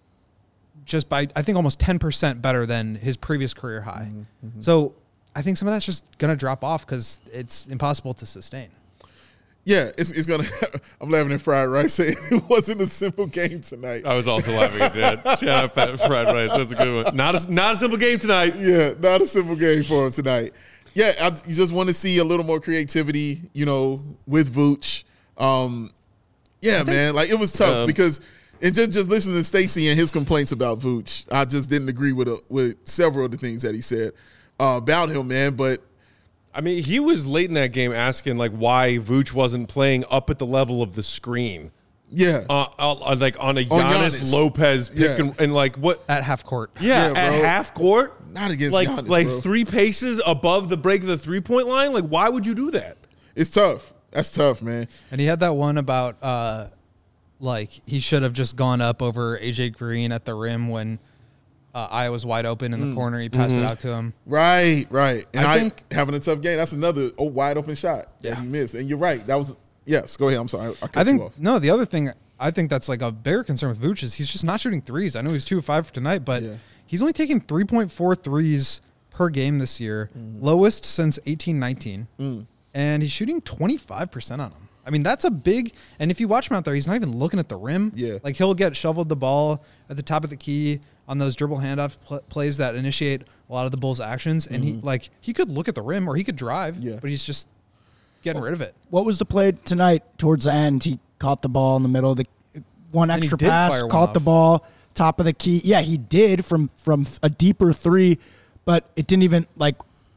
just by, I think, almost ten percent better than his previous career high. Mm-hmm, So I think some of that's just going to drop off because it's impossible to sustain. Yeah, it's, it's going to – I'm laughing at Fried Rice saying it wasn't a simple game tonight. I was also laughing at that. Shout out Pat Fried Rice. That's a good one. Not a, not a simple game tonight. Yeah, not a simple game for him tonight. Yeah, I, you just want to see a little more creativity, you know, with Vooch. Um, yeah, man, like it was tough Um, because and just just listening to Stacey and his complaints about Vooch, I just didn't agree with a, with several of the things that he said uh, about him, man. But I mean, he was late in that game asking like why Vooch wasn't playing up at the level of the screen. Yeah. Uh, uh, like on a On Giannis, Giannis. Lopez pick Yeah. and, and like what? At half court. Yeah, Yeah, at bro. half court. Not against like Giannis, like bro. three paces above the break of the three point line. Like, why would you do that? It's tough. That's tough, man. And he had that one about uh, like he should have just gone up over A J Green at the rim when uh, Iowa's wide open in the corner. He passed Mm-hmm. it out to him. Right, right. And I I, think- having a tough game. That's another oh, wide open shot that Yeah. he missed. And you're right. That was yes. Go ahead. I'm sorry. I, I cut I think you off. no. The other thing I think that's like a bigger concern with Vooch is he's just not shooting threes. I know he's two of five for tonight, but Yeah. he's only taking three point four threes per game this year, Mm. lowest since eighteen nineteen, and he's shooting twenty-five percent on them. I mean, that's a big. And if you watch him out there, he's not even looking at the rim. Yeah. like he'll get shoveled the ball at the top of the key on those dribble handoff pl- plays that initiate a lot of the Bulls' actions, and he like he could look at the rim or he could drive, Mm-hmm. Yeah. but he's just getting rid of it. What was the play tonight towards the end? He caught the ball in the middle of the one he extra did pass, fire one caught the off. ball, top of the key. Yeah, he did from from a deeper three, but it didn't even like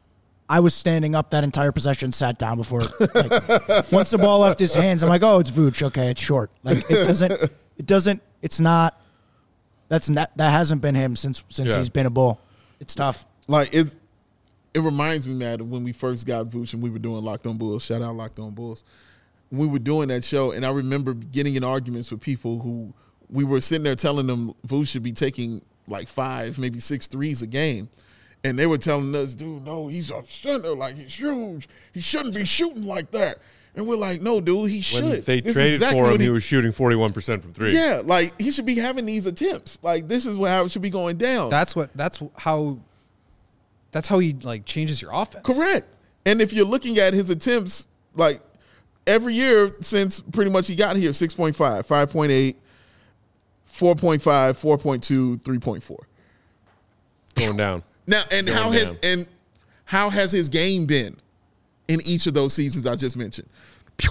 I was standing up that entire possession, sat down before like, once the ball left his hands, I'm like, oh, it's Vooch. Okay, it's short. Like it doesn't it doesn't it's not that's not that hasn't been him since since Yeah. he's been a Bull. It's tough. Like it it reminds me, man, of when we first got Vooch and we were doing Locked On Bulls. Shout out Locked On Bulls. We were doing that show, and I remember getting in arguments with people who we were sitting there telling them Vooch should be taking like five, maybe six threes a game. And they were telling us, dude, no, he's a center, like he's huge. He shouldn't be shooting like that. And we're like, no, dude, he should. When they This is traded exactly for him, what he was shooting forty-one percent from three. Yeah, like he should be having these attempts. Like this is what how it should be going down. That's what. That's how. That's how he like changes your offense. Correct. And if you're looking at his attempts, like every year since pretty much he got here, six point five, five point eight, four point five, four point two, three point four. Going down. Now, and Going how has down. and how has his game been in each of those seasons I just mentioned? Pew.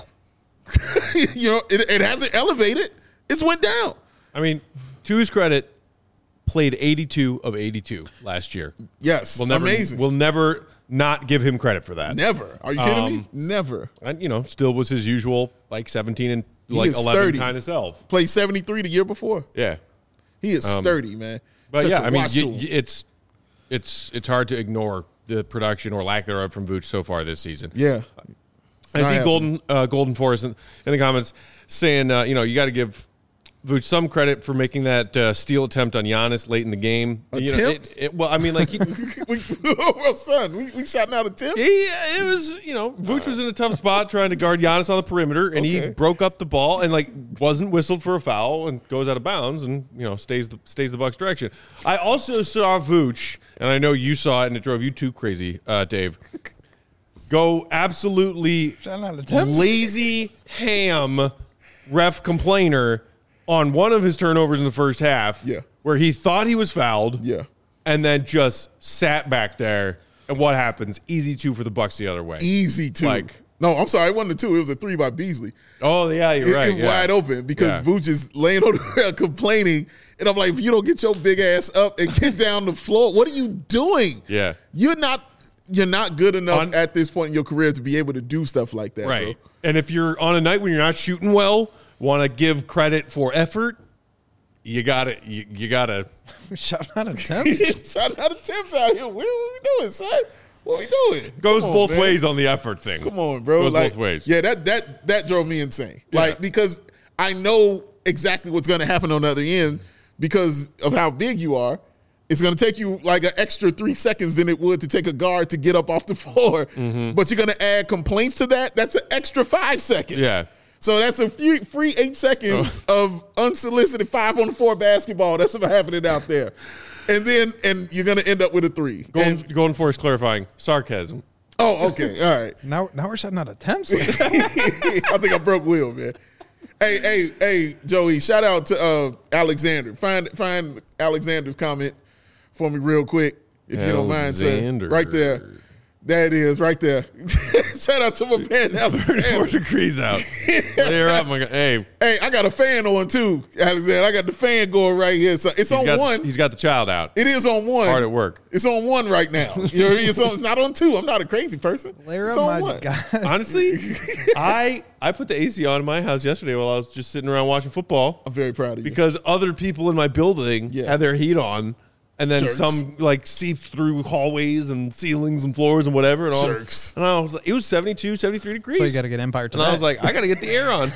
you know, it, it hasn't elevated. It's went down. I mean, to his credit, played eighty-two of eighty-two last year. Yes, We'll never, amazing. We'll never not give him credit for that. Never. Are you kidding me? Um, Never. And, you know, still was his usual, like seventeen and He like is eleven sturdy. kind of self. Played seventy-three the year before. Yeah. He is sturdy, man. But Such yeah, a I mean, watch y- tool. y- it's it's it's hard to ignore the production or lack thereof from Vooch so far this season. yeah. I not see happening. Golden uh, Golden Forest in, in the comments saying, uh, you know, you got to give Vooch some credit for making that uh, steal attempt on Giannis late in the game. You know, Attempt? it, it, well, I mean, like he, we, well, son, we, we shouting out attempts. he, it was, you know, Vooch was in a tough spot trying to guard Giannis on the perimeter, and he Okay. broke up the ball and like wasn't whistled for a foul and goes out of bounds and you know stays the stays the Bucks direction. I also saw Vooch, and I know you saw it, and it drove you too crazy, uh, Dave. Go absolutely lazy ham ref complainer on one of his turnovers in the first half. Yeah. Where he thought he was fouled. Yeah. And then just sat back there. And what happens? Easy two for the Bucks the other way. Easy two. Like- no, I'm sorry, it wasn't a two. It was a three by Beasley. Oh, yeah, you're It- right. it yeah. wide open because Yeah. Vooch is laying on the ground complaining. And I'm like, if you don't get your big ass up and get down the floor, what are you doing? Yeah. You're not you're not good enough On- at this point in your career to be able to do stuff like that. Right. Bro. And if you're on a night when you're not shooting well, want to give credit for effort, you got to you, you got to Shot out attempts. Shout out attempts out here. What, what we doing, son? What we doing? goes Come on, both man. ways on the effort thing. Come on, bro. Goes Like, both ways. Yeah, that that that drove me insane. Yeah. Like because I know exactly what's going to happen on the other end because of how big you are. It's going to take you like an extra three seconds than it would to take a guard to get up off the floor. Mm-hmm. But you're going to add complaints to that. That's an extra five seconds. Yeah. So that's a few, free eight seconds of unsolicited five on the floor basketball. That's what's happening out there. And then and you're going to end up with a three. Golden, And- Golden Forest clarifying sarcasm. oh, okay. All right. now, now we're shutting out attempts. I think I broke Will, man. Hey, hey, hey, Joey! Shout out to uh, Alexander. Find find Alexander's comment for me real quick, if you don't mind, sir. Alexander. Right there. There it is, right there. Shout out to my man. thirty-four degrees out. Layer up, my guy. Hey, Hey, I got a fan on too, Alexander. I got the fan going right here. So it's he's on got, one. he's got the child out. It is on one. Hard at work. It's on one right now. You know, it's, on, it's not on two. I'm not a crazy person. Layer it's up, on my one. guy. Honestly, I I put the A C on in my house yesterday while I was just sitting around watching football I'm very proud of you. because other people in my building Yeah. had their heat on. And then Jerks. some like seeps through hallways and ceilings and floors and whatever. And all. Jerks. And I was like, it was seventy-two, seventy-three degrees. So you got to get Empire today. And I was like, I got to get the air on.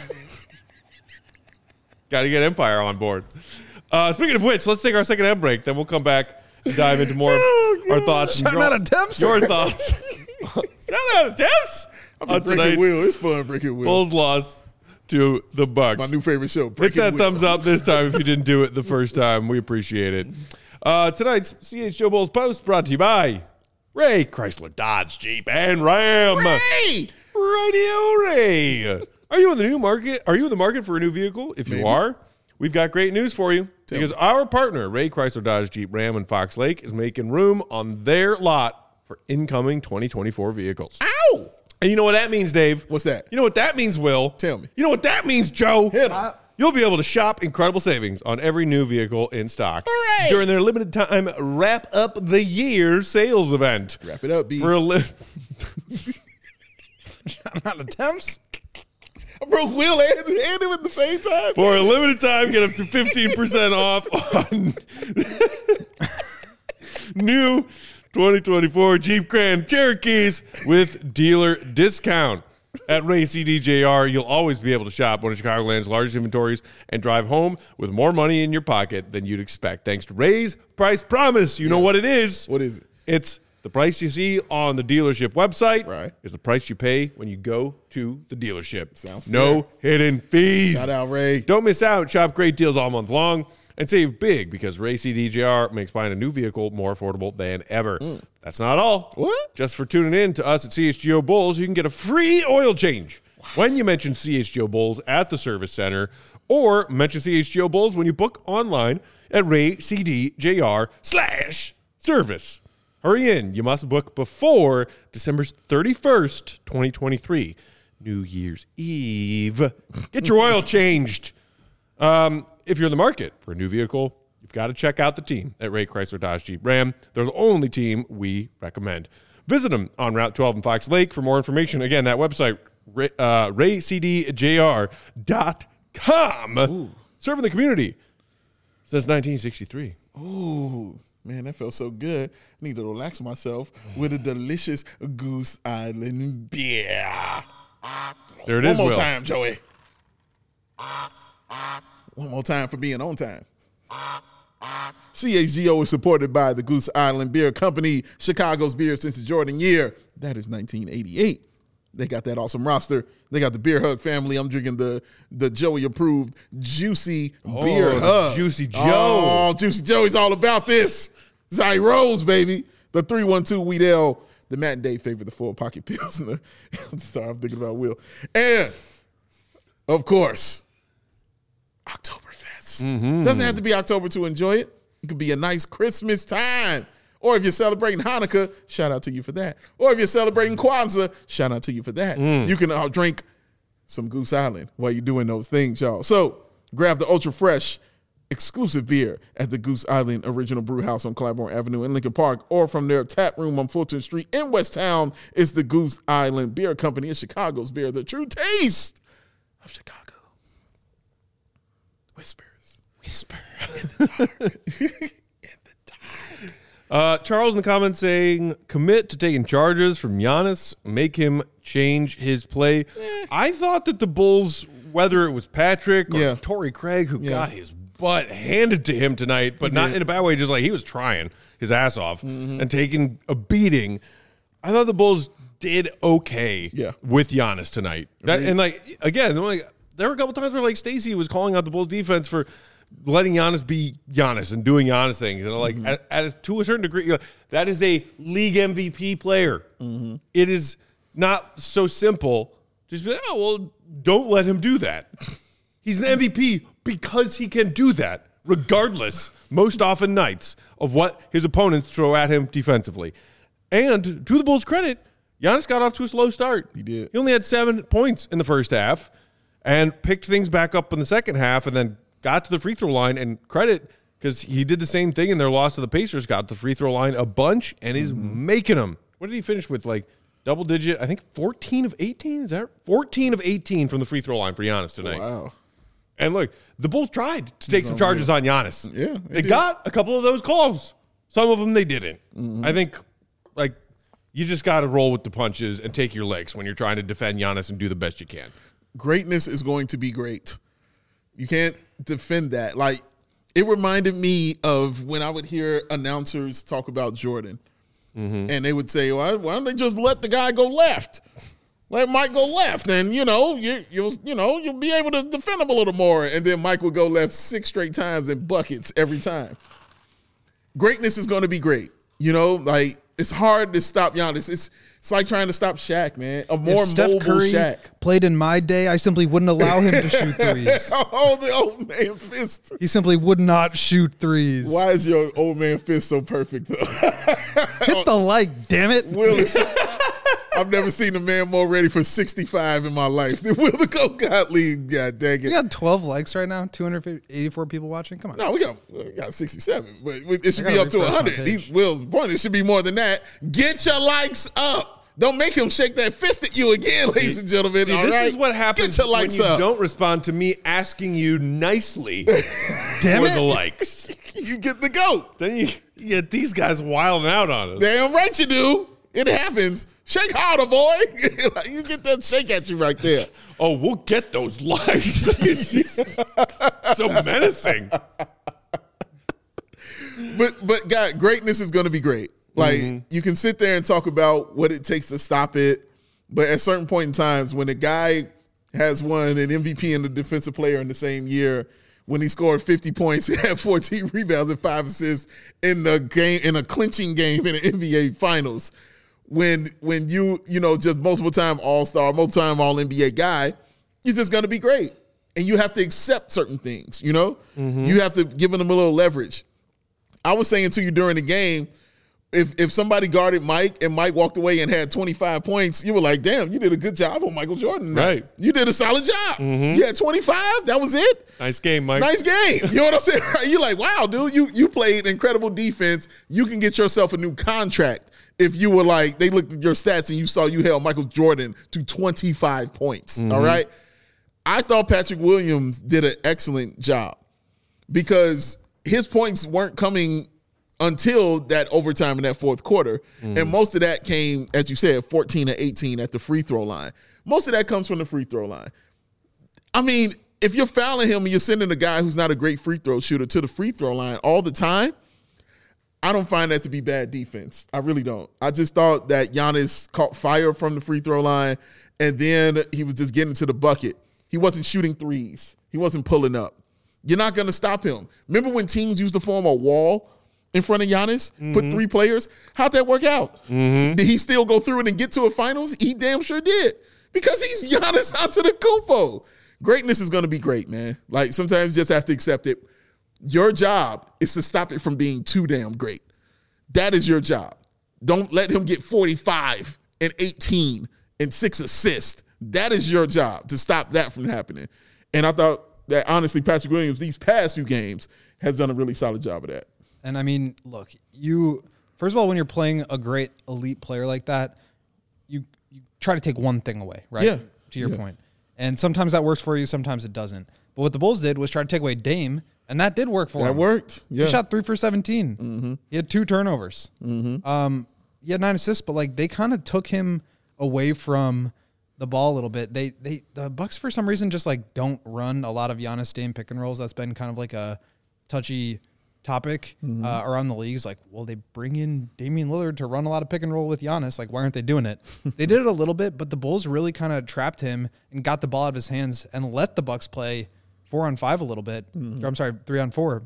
Got to get Empire on board. Uh, speaking of which, let's take our second ad break. Then we'll come back and dive into more of our thoughts. and Shouting your- out attempts. Your thoughts. Shout out attempts. I'm on breaking tonight's Will. It's fun breaking Will. Bulls loss to the Bucks. My new favorite show. Hit Breaking that Will. thumbs up this time if you didn't do it the first time. We appreciate it. Uh, tonight's C H G O Bulls Post brought to you by Ray Chrysler Dodge Jeep and Ram. Hey! Radio Ray. Are you in the new market? Are you in the market for a new vehicle? If you Maybe. are, we've got great news for you Tell because me. our partner, Ray Chrysler Dodge Jeep Ram in Fox Lake, is making room on their lot for incoming twenty twenty-four vehicles. Ow! And you know what that means, Dave? What's that? You know what that means, Will? Tell me. You know what that means, Joe? Hit 'em. You'll be able to shop incredible savings on every new vehicle in stock Hooray! during their limited time wrap up the year sales event. Wrap it up, B. For a li- Shouting out attempts. I broke Will and, and him at the same time. For a limited time, get up to fifteen percent off on new twenty twenty-four Jeep Grand Cherokees with dealer discount. At Ray C D J R, you'll always be able to shop one of Chicagoland's largest inventories and drive home with more money in your pocket than you'd expect. Thanks to Ray's Price Promise. You know what it is. What is it? It's the price you see on the dealership website. Right. Is the price you pay when you go to the dealership. Sound no hidden fees. Shout out, Ray. Don't miss out. Shop great deals all month long and save big because Ray C D J R makes buying a new vehicle more affordable than ever. That's not all. What? Just for tuning in to us at C H G O Bulls, you can get a free oil change when you mention C H G O Bulls at the service center or mention C H G O Bulls when you book online at Ray C D J R slash service. Hurry in. You must book before December thirty-first, twenty twenty-three, New Year's Eve. Get your oil changed. Um, if you're in the market for a new vehicle, you've got to check out the team at Ray Chrysler Dodge Jeep Ram. They're the only team we recommend. Visit them on Route twelve in Fox Lake for more information. Again, that website, ray, uh, ray c d j r dot com. Serving the community since nineteen sixty-three. Ooh, man, that felt so good. I need to relax myself with a delicious Goose Island beer. There it One is, more Will. time, Joey. One more time for being on time. C H G O is supported by the Goose Island Beer Company, Chicago's beer since the Jordan year. That is nineteen eighty-eight. They got that awesome roster. They got the Beer Hug family. I'm drinking the the Joey approved Juicy Beer the Hug. Juicy Joe. Oh, Juicy Joey's all about this. Zyros, baby. The three one two Wheat Ale. The Matt and Dave favorite, the four pocket Pilsner. I'm sorry, I'm thinking about Will. And, of course, Oktoberfest. Mm-hmm. Doesn't have to be October to enjoy it. It could be a nice Christmas time. Or if you're celebrating Hanukkah, shout out to you for that. Or if you're celebrating Kwanzaa, shout out to you for that. Mm. You can uh, drink some Goose Island while you're doing those things, y'all. So grab the ultra fresh exclusive beer at the Goose Island Original Brew House on Claiborne Avenue in Lincoln Park, or from their tap room on Fulton Street in West Town. It's the Goose Island Beer Company. It's Chicago's beer, the true taste of Chicago. Whispers. Whisper in the dark. in the dark. Uh, Charles in the comments saying, commit to taking charges from Giannis, make him change his play. Eh. I thought that the Bulls, whether it was Patrick or Yeah. Torrey Craig, who Yeah. got his butt handed to him tonight, but not in a bad way, just like he was trying his ass off Mm-hmm. and taking a beating. I thought the Bulls did okay Yeah. with Giannis tonight. That, and like, again, like, there were a couple times where like Stacey was calling out the Bulls defense for letting Giannis be Giannis and doing Giannis things. And like Mm-hmm. at, at a, to a certain degree, you know, that is a league M V P player. Mm-hmm. It is not so simple. Just be like, oh, well, don't let him do that. He's an M V P because he can do that, regardless, most often nights, of what his opponents throw at him defensively. And to the Bulls' credit, Giannis got off to a slow start. He did. He only had seven points in the first half and picked things back up in the second half and then got to the free throw line. And credit, because he did the same thing in their loss to the Pacers, got to the free throw line a bunch and is mm-hmm. making them. What did he finish with? Like double digit, I think fourteen of eighteen? Is that fourteen of eighteen from the free throw line for Giannis tonight? Wow. And look, the Bulls tried to take some charges on Giannis. Yeah. They did. Got a couple of those calls. Some of them they didn't. Mm-hmm. I think, like, you just got to roll with the punches and take your licks when you're trying to defend Giannis and do the best you can. Greatness is going to be great. You can't defend that. Like, it reminded me of when I would hear announcers talk about Jordan. Mm-hmm. And they would say, well, why don't they just let the guy go left? Let Mike go left, and you know you you'll you know you'll be able to defend him a little more. And then Mike will go left six straight times in buckets every time. Greatness is going to be great. You know, like it's hard to stop Giannis. It's it's like trying to stop Shaq, man. A more if Steph mobile Curry Shaq played in my day, I simply wouldn't allow him to shoot threes. Oh, the old man fist. He simply would not shoot threes. Why is your old man fist so perfect though? Hit the like, damn it. Will is. I've never seen a man more ready for sixty-five in my life than Will the Goat Gottlieb. God dang it. We got twelve likes right now, two hundred eighty-four people watching. Come on. No, we got we got sixty-seven, but it should be up to one hundred. He's Will's point. It should be more than that. Get your likes up. Don't make him shake that fist at you again, see, ladies and gentlemen. See, all this right? is what happens when you up. don't respond to me asking you nicely Damn for it. the likes. You get the goat. Then you, you get these guys wilding out on us. Damn right you do. It happens. Shake harder, boy. You get that shake at you right there. Oh, we'll get those likes. So menacing. But but God, greatness is going to be great. Like mm-hmm. you can sit there and talk about what it takes to stop it, but at certain point in times, when a guy has won an M V P and a defensive player in the same year, when he scored fifty points, he had fourteen rebounds and five assists in the game in a clinching game in the N B A Finals. When when you you know just multiple time All Star, multiple time All N B A guy, you're just going to be great, and you have to accept certain things. You know, mm-hmm. you have to give them a little leverage. I was saying to you during the game, if if somebody guarded Mike and Mike walked away and had twenty-five points, you were like, damn, you did a good job on Michael Jordan. Right. You did a solid job. Mm-hmm. You had twenty-five. That was it. Nice game, Mike. Nice game. You know what I'm saying? You're like, wow, dude, you you played incredible defense. You can get yourself a new contract if you were like, they looked at your stats and you saw you held Michael Jordan to twenty-five points. Mm-hmm. All right. I thought Patrick Williams did an excellent job because his points weren't coming until that overtime in that fourth quarter. Mm. And most of that came, as you said, fourteen to eighteen at the free throw line. Most of that comes from the free throw line. I mean, if you're fouling him and you're sending a guy who's not a great free throw shooter to the free throw line all the time, I don't find that to be bad defense. I really don't. I just thought that Giannis caught fire from the free throw line, and then he was just getting to the bucket. He wasn't shooting threes. He wasn't pulling up. You're not going to stop him. Remember when teams used to form a wall in front of Giannis, mm-hmm. put three players? How'd that work out? Mm-hmm. Did he still go through it and get to a finals? He damn sure did. Because he's Giannis Antetokounmpo. Greatness is going to be great, man. Like, sometimes you just have to accept it. Your job is to stop it from being too damn great. That is your job. Don't let him get forty-five and eighteen and six assists. That is your job, to stop that from happening. And I thought that, honestly, Patrick Williams, these past few games, has done a really solid job of that. And, I mean, look, you – first of all, when you're playing a great elite player like that, you, you try to take one thing away, right? Yeah. To your yeah. point. And sometimes that works for you, sometimes it doesn't. But what the Bulls did was try to take away Dame, and that did work for that him. That worked. Yeah. He shot three for seventeen. Mm-hmm. He had two turnovers. Mm-hmm. Um, he had nine assists, but, like, they kind of took him away from – the ball a little bit. They they the Bucks for some reason just like don't run a lot of Giannis Dame pick and rolls. That's been kind of like a touchy topic mm-hmm. uh, around the leagues. Like, well, they bring in Damian Lillard to run a lot of pick and roll with Giannis. Like, why aren't they doing it? They did it a little bit, but the Bulls really kind of trapped him and got the ball out of his hands and let the Bucks play four on five a little bit. Mm-hmm. Or I'm sorry, three on four.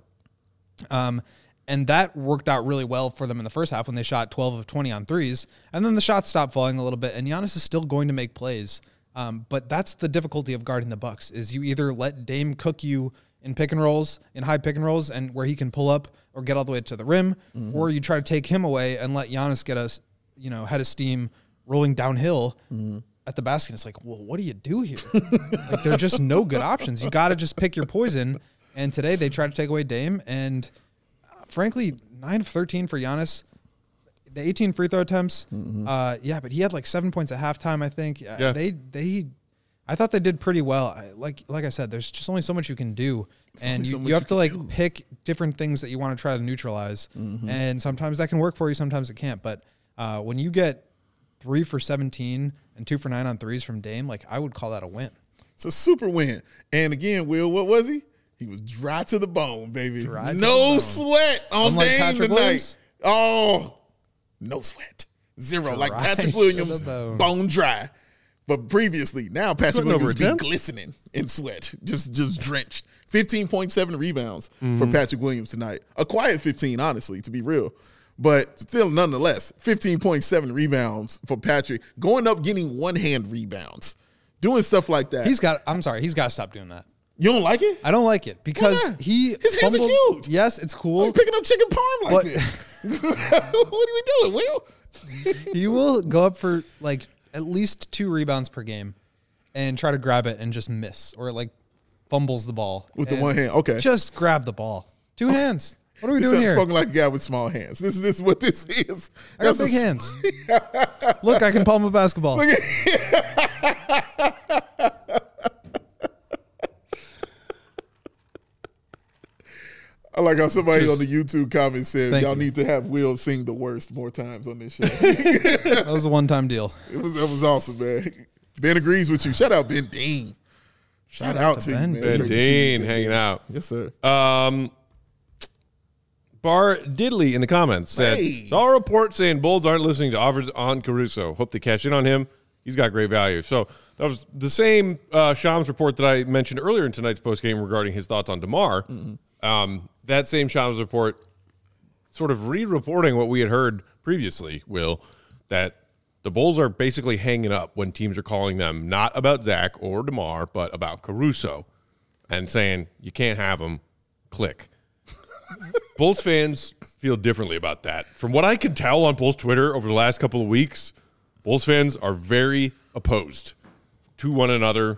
Um, and that worked out really well for them in the first half when they shot twelve of twenty on threes. And then the shots stopped falling a little bit, and Giannis is still going to make plays. Um, but that's the difficulty of guarding the Bucks, is you either let Dame cook you in pick and rolls, in high pick and rolls, and where he can pull up or get all the way to the rim, mm-hmm. or you try to take him away and let Giannis get us you know, head of steam rolling downhill Mm-hmm. at the basket. It's like, well, what do you do here? Like, there are just no good options. You got to just pick your poison. And today they tried to take away Dame. And uh, frankly, nine of thirteen for Giannis. The eighteen free throw attempts. Mm-hmm. Uh, yeah, but he had like seven points at halftime, I think. Uh, Yeah. They, they, I thought they did pretty well. I, like, like I said, there's just only so much you can do. And only you, so much you have you to can like do. pick different things that you want to try to neutralize. Mm-hmm. And sometimes that can work for you. Sometimes it can't. But uh, when you get three for seventeen and two for nine on threes from Dame, like I would call that a win. It's a super win. And again, Will, what was he? He was dry to the bone, baby. Dry to the no bone. sweat on Unlike Dame Patrick tonight. Williams? Oh, no sweat. Zero. Like Dry Patrick to Williams, the bone. bone dry. But previously, now Patrick Sweating over Williams be attempts? glistening in sweat, just just drenched. fifteen point seven rebounds Mm-hmm. for Patrick Williams tonight. A quiet fifteen, honestly, to be real. But still, nonetheless, fifteen point seven rebounds for Patrick. Going up, getting one-hand rebounds. Doing stuff like that. He's got, I'm sorry, he's got to stop doing that. You don't like it? I don't like it because not? he His hands are fumbles- huge. Yes, it's cool. He's picking up chicken parm like But- this. What are we doing, Will? He will go up for like at least two rebounds per game and try to grab it and just miss or like fumbles the ball With the And one hand, okay. Just grab the ball. Two hands. What are we This doing sounds here? spoken like a guy with small hands. This, this is what this is. I got That's big a- hands. Look, I can palm a basketball. I like how somebody on the YouTube comments said, Thank y'all you. need to have Will sing the worst more times on this show. That was a one-time deal. It was that was awesome, man. Ben agrees with you. Shout out Ben Dean. Shout, out, to Ben you, man. Ben It's great to see you, Dean Ben hanging Dean. out. Yes, sir. Um, Bar Diddley in the comments said, Hey. saw a report saying Bulls aren't listening to offers on Caruso. Hope they cash in on him. He's got great value. So that was the same uh, Shams report that I mentioned earlier in tonight's postgame regarding his thoughts on DeMar. Mm-hmm. Um, that same Shams report sort of re-reporting what we had heard previously, Will, that the Bulls are basically hanging up when teams are calling them not about Zach or DeMar, but about Caruso and saying, you can't have him, click. Bulls fans feel differently about that. From what I can tell on Bulls Twitter over the last couple of weeks, Bulls fans are very opposed to one another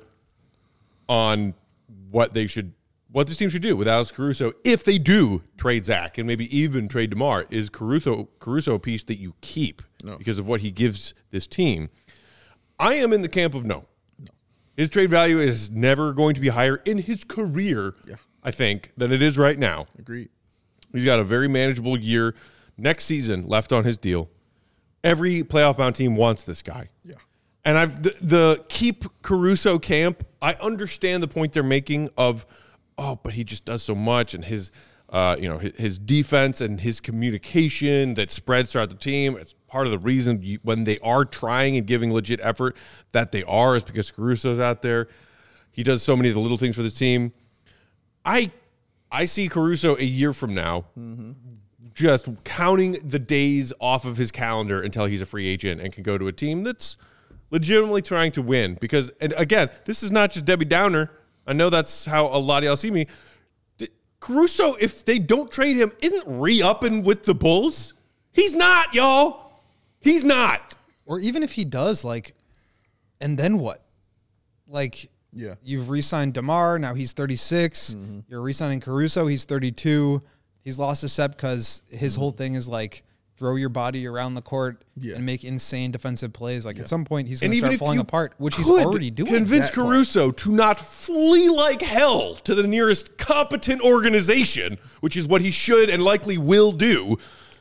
on what they should, what this team should do with Alex Caruso if they do trade Zach and maybe even trade DeMar. Is Caruso Caruso a piece that you keep No. because of what he gives this team? I am in the camp of no. no. His trade value is never going to be higher in his career, Yeah. I think, than it is right now. Agreed. He's got a very manageable year next season left on his deal. Every playoff bound team wants this guy. Yeah. And I've the, the keep Caruso camp, I understand the point they're making of, oh, but he just does so much and his uh, you know, his, his defense and his communication that spreads throughout the team. It's part of the reason you, when they are trying and giving legit effort that they are is because Caruso's out there. He does so many of the little things for this team. I I see Caruso a year from now Mm-hmm. just counting the days off of his calendar until he's a free agent and can go to a team that's legitimately trying to win. Because, and again, this is not just Debbie Downer. I know that's how a lot of y'all see me. D- Caruso, if they don't trade him, isn't re-upping with the Bulls. He's not, y'all. He's not. Or even if he does, like, and then what? Like, Yeah. you've re-signed DeMar. Now he's thirty-six. You're re-signing Caruso. He's thirty-two. He's lost a step because his whole thing is like throw your body around the court Yeah. and make insane defensive plays. Like at some point he's going And to even start if falling you apart, which he's could already doing. convince that part. Caruso to not flee like hell to the nearest competent organization, which is what he should and likely will do.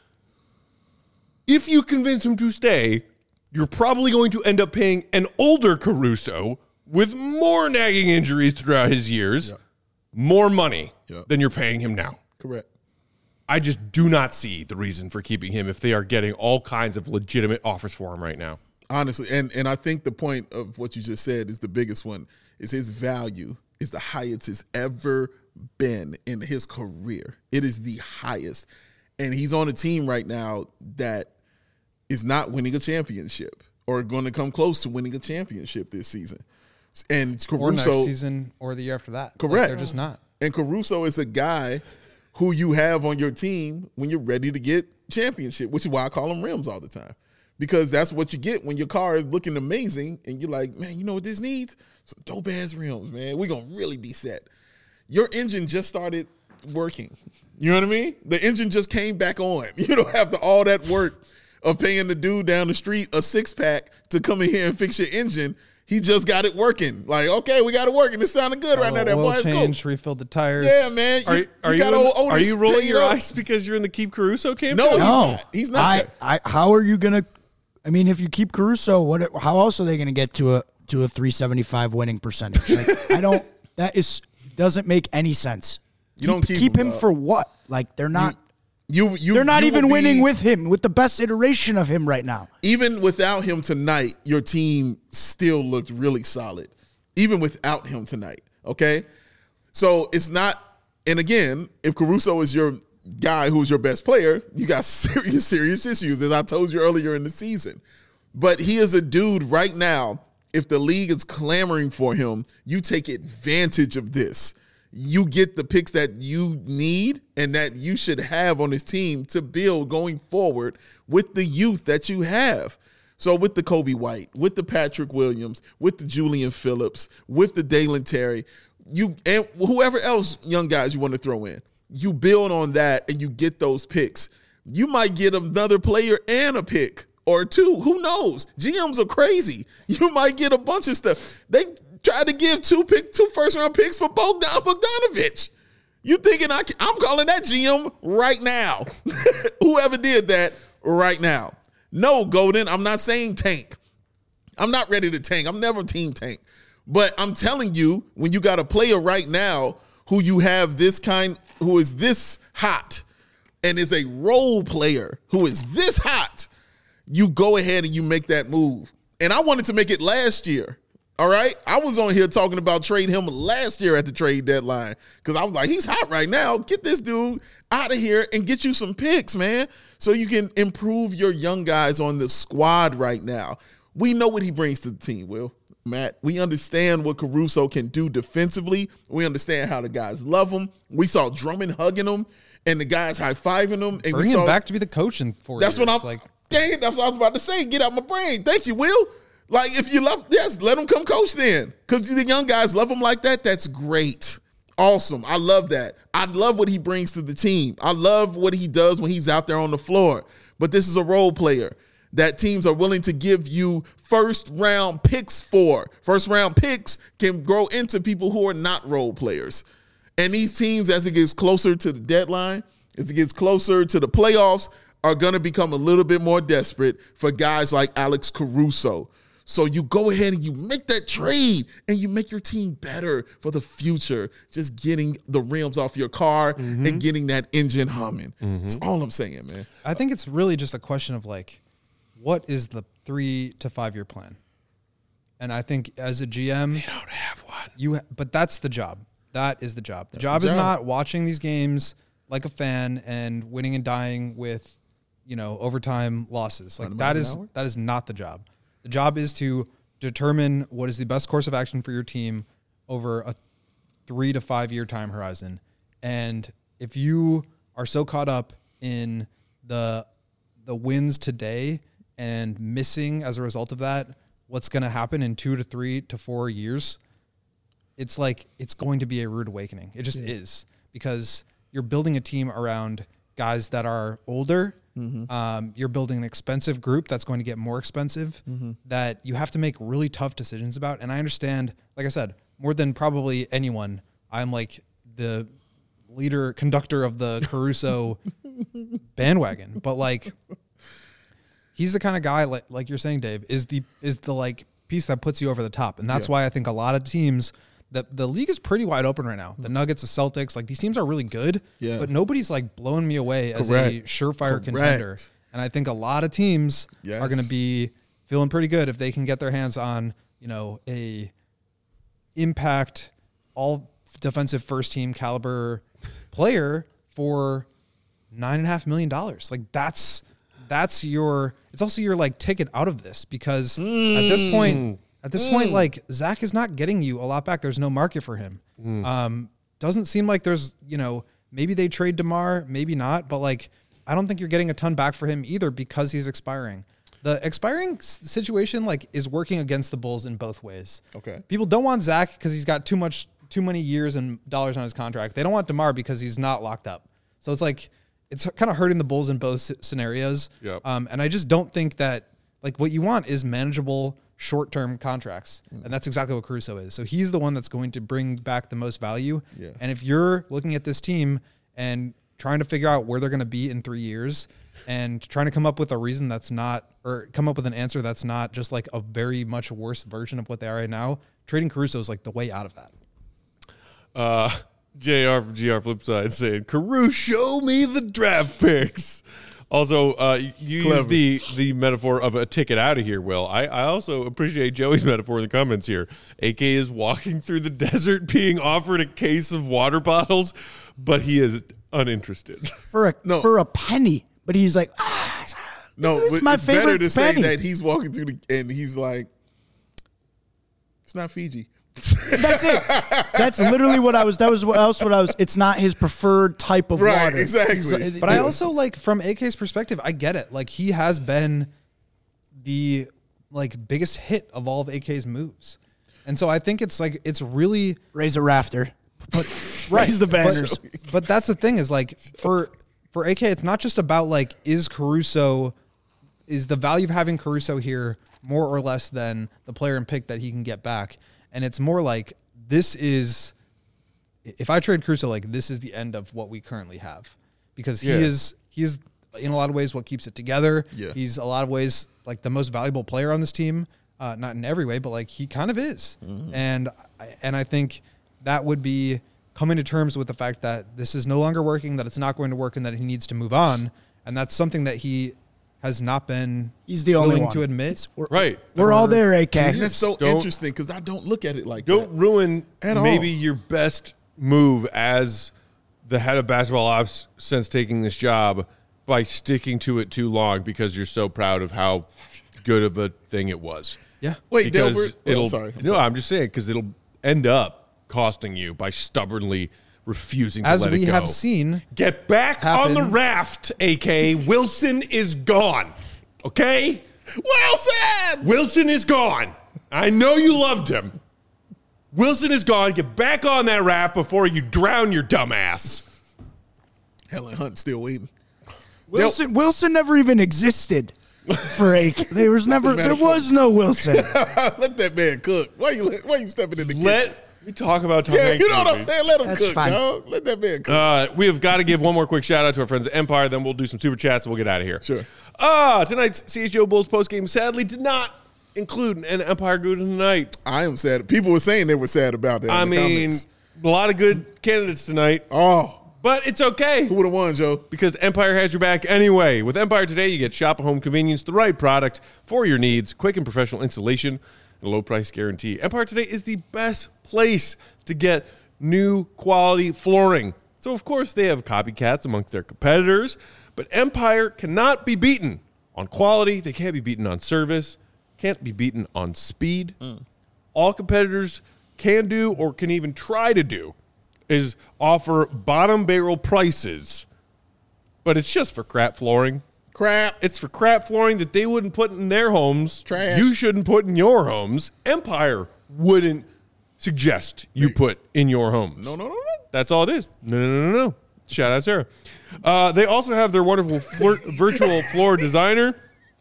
If you convince him to stay, you're probably going to end up paying an older Caruso with more nagging injuries throughout his years, Yeah. more money Yeah. than you're paying him now. Correct. I just do not see the reason for keeping him if they are getting all kinds of legitimate offers for him right now. Honestly, and and I think the point of what you just said is the biggest one, is his value is the highest it's ever been in his career. It is the highest. And he's on a team right now that is not winning a championship or going to come close to winning a championship this season. And or next Caruso, season or the year after that. Like, Correct. they're just not. and Caruso is a guy who you have on your team when you're ready to get championship, which is why I call him rims all the time. because that's what you get when your car is looking amazing and you're like, man, you know what this needs? Some dope ass rims, man. We're going to really be set. Your engine just started working. You know what I mean? The engine just came back on. You know, after all that work of paying the dude down the street a six pack to come in here and fix your engine, he just got it working. Like, okay, we got it working. It sounded good right now. That boy, change, refilled the tires. Yeah, man. Are, you, are, you, you, got in, old are you rolling your up. eyes because you're in the Keep Caruso camp? No, he's No, not. He's not. I, I, how are you gonna? I mean, if you keep Caruso, what? How else are they gonna get to a to a three seventy-five winning percentage? Like, I don't. That is doesn't make any sense. You don't keep keep him, him dog. for what? Like they're not. You, you, they're not you even will winning be, with him, with the best iteration of him right now. Even without him tonight, your team still looked really solid. Even without him tonight, okay? So it's not, and again, if Caruso is your guy who's your best player, you got serious, serious issues, as I told you earlier in the season. But he is a dude right now, if the league is clamoring for him, you take advantage of this. You get the picks that you need and that you should have on this team to build going forward with the youth that you have. So with the Kobe White, with the Patrick Williams, with the Julian Phillips, with the Dalen Terry, you and whoever else young guys you want to throw in, you build on that and you get those picks. You might get another player and a pick or two. Who knows? G Ms are crazy. You might get a bunch of stuff. They tried to give two pick, two first round picks for Bogdan Bogdanovic. You thinking I can, I'm calling that G M right now. Whoever did that right now. No, Golden, I'm not saying tank. I'm not ready to tank. I'm never team tank. But I'm telling you, when you got a player right now who you have this kind, who is this hot and is a role player who is this hot, you go ahead and you make that move. And I wanted to make it last year. All right. I was on here talking about trading him last year at the trade deadline because I was like, he's hot right now. Get this dude out of here and get you some picks, man, so you can improve your young guys on the squad right now. We know what he brings to the team, Will. Matt, we understand what Caruso can do defensively. We understand how the guys love him. We saw Drummond hugging him and the guys high-fiving him. And Bring we him saw, back to be the coach in four That's years. what I'm like. Dang it, that's what I was about to say. Get out my brain. Thank you, Will. Like, if you love, yes, let him come coach then. Because the young guys love him like that. That's great. Awesome. I love that. I love what he brings to the team. I love what he does when he's out there on the floor. But this is a role player that teams are willing to give you first round picks for. First round picks can grow into people who are not role players. And these teams, as it gets closer to the deadline, as it gets closer to the playoffs, are going to become a little bit more desperate for guys like Alex Caruso. So you go ahead and you make that trade and you make your team better for the future. Just getting the rims off your car mm-hmm. and getting that engine humming. Mm-hmm. That's all I'm saying, man. I think it's really just a question of like, what is the three to five year plan? And I think as a G M, they don't have one. You, ha- but that's the job. That is the job. The that's job the is job. not watching these games like a fan and winning and dying with, you know, overtime losses. Like that is that is not the job. The job is to determine what is the best course of action for your team over a three to five year time horizon. And if you are so caught up in the the wins today and missing as a result of that, what's going to happen in two to three to four years, it's like it's going to be a rude awakening. It just yeah. is, because you're building a team around guys that are older. Mm-hmm. Um, you're building an expensive group that's going to get more expensive mm-hmm. that you have to make really tough decisions about. And I understand, like I said, more than probably anyone, I'm like the leader, conductor of the Caruso bandwagon. But like, he's the kind of guy, like like you're saying, Dave, is the is the like piece that puts you over the top. And that's yeah. why I think a lot of teams, the, the league is pretty wide open right now. The Nuggets, the Celtics, like these teams are really good, yeah. but nobody's like blowing me away as Correct. a surefire Correct. contender. And I think a lot of teams yes. are going to be feeling pretty good if they can get their hands on, you know, a impact, all defensive first team caliber player for nine and a half million dollars. Like that's, that's your, it's also your like ticket out of this, because mm. at this point, At this mm. point, like, Zach is not getting you a lot back. There's no market for him. Mm. Um, doesn't seem like there's, you know, maybe they trade DeMar, maybe not. But, like, I don't think you're getting a ton back for him either because he's expiring. the expiring s- situation like is working against the Bulls in both ways. Okay. People don't want Zach because he's got too much, too many years and dollars on his contract. They don't want DeMar because he's not locked up. So it's like it's kind of hurting the Bulls in both s- scenarios. Yep. Um, and I just don't think that like what you want is manageable short-term contracts, Mm. and that's exactly what Caruso is. So he's the one that's going to bring back the most value. Yeah. And if you're looking at this team and trying to figure out where they're going to be in three years and trying to come up with a reason that's not, or come up with an answer that's not just like a very much worse version of what they are right now, trading Caruso is like the way out of that. Uh, J R from G R Flipside saying, Caruso, show me the draft picks. Also, uh, you Clever. use the the metaphor of a ticket out of here, Will. I, I also appreciate Joey's metaphor in the comments here. A K is walking through the desert being offered a case of water bottles, but he is uninterested. for a No. for a penny. But he's like, ah, No, this is but my it's better favorite to say penny. that he's walking through the and he's like, it's not Fiji. That's it. That's literally what I was. That was what else. What I was. It's not his preferred type of Right, water. exactly. He's- But I also like from A K's perspective, I get it. Like he has been the like biggest hit of all of A K's moves. And so I think it's like it's really raise a rafter. Put, right. Raise the banners. But, but that's the thing is like for for A K, it's not just about like is Caruso is the value of having Caruso here more or less than the player and pick that he can get back. And it's more like this is if I trade Caruso, like this is the end of what we currently have. Because he Yeah. is he is in a lot of ways what keeps it together. Yeah. He's a lot of ways like the most valuable player on this team. Uh, not in every way, but like he kind of is. Mm-hmm. And I- and I think that would be coming to terms with the fact that this is no longer working, that it's not going to work, and that he needs to move on. And that's something that he has not been He's the only willing one. to admit. We're, Right. we're all there, A K. And that's so Don't- interesting because I don't look at it like Don't that. ruin At maybe all. your best move as the head of basketball ops since taking this job by sticking to it too long because you're so proud of how good of a thing it was. Yeah. Wait, Because Delbert. Oh, it'll, I'm sorry. I'm no, sorry. I'm just saying because it'll end up costing you by stubbornly refusing to As let we it go. have seen, Get back on happen. the raft, A K. Wilson is gone. Okay? Wilson! Wilson is gone. I know you loved him. Wilson is gone. Get back on that raft before you drown your dumb ass. Helen Hunt still waiting. Wilson Wilson never even existed for A K. There was never. There was no Wilson. Let that man cook. Why you why you stepping in the kitchen? Let me talk about Tom yeah, Hanks you know what I'm movies. saying? Let him That's cook, fine. dog. Let that man cook. Uh, we have got to give one more quick shout out to our friends at Empire. Then we'll do some super chats and we'll get out of here. Sure. Ah, tonight's C H G O Bulls postgame sadly did not include an Empire Good of the Night. I am sad. People were saying they were sad about that. I in the mean, comments. a lot of good candidates tonight, Oh, but it's okay. who would have won, Joe? Because Empire has your back anyway. With Empire Today, you get shop at home convenience, the right product for your needs, quick and professional installation, and a low price guarantee. Empire Today is the best place to get new quality flooring. So, of course, they have copycats amongst their competitors, but Empire cannot be beaten on quality. They can't be beaten on service, can't be beaten on speed. All competitors can do or can even try to do is offer bottom barrel prices, but it's just for crap flooring. Crap. It's for crap flooring that they wouldn't put in their homes. Trash. You shouldn't put in your homes. Empire wouldn't suggest you put in your homes. No, no, no, no. That's all it is. No, no, no, no, no. Shout out Sarah. Uh, they also have their wonderful floor, virtual floor designer.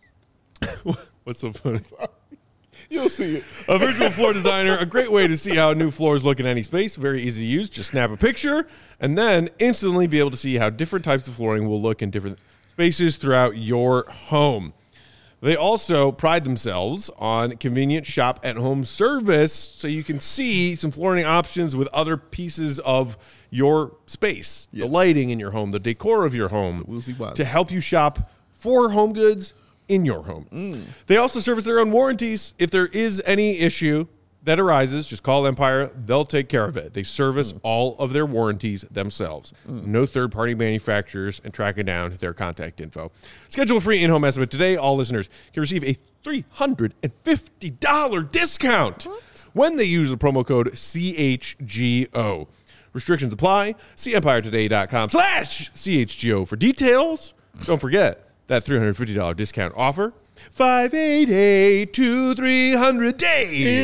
What's so funny? You'll see it. A virtual floor designer, a great way to see how new floors look in any space. Very easy to use. Just snap a picture and then instantly be able to see how different types of flooring will look in different spaces throughout your home. They also pride themselves on convenient shop at home service so you can see some flooring options with other pieces of your space, Yes. the lighting in your home, the decor of your home, Woozy woozy. to help you shop for home goods in your home. They also service their own warranties. If there is any issue that arises, just call Empire. They'll take care of it. They service all of their warranties themselves. No third-party manufacturers, and tracking down their contact info. Schedule a free in-home estimate today. All listeners can receive a three hundred fifty dollars discount when they use the promo code C H G O. Restrictions apply. See empiretoday.com slash CHGO for details. Don't forget that three hundred fifty dollars discount offer. five eight eight, two three hundred Dave.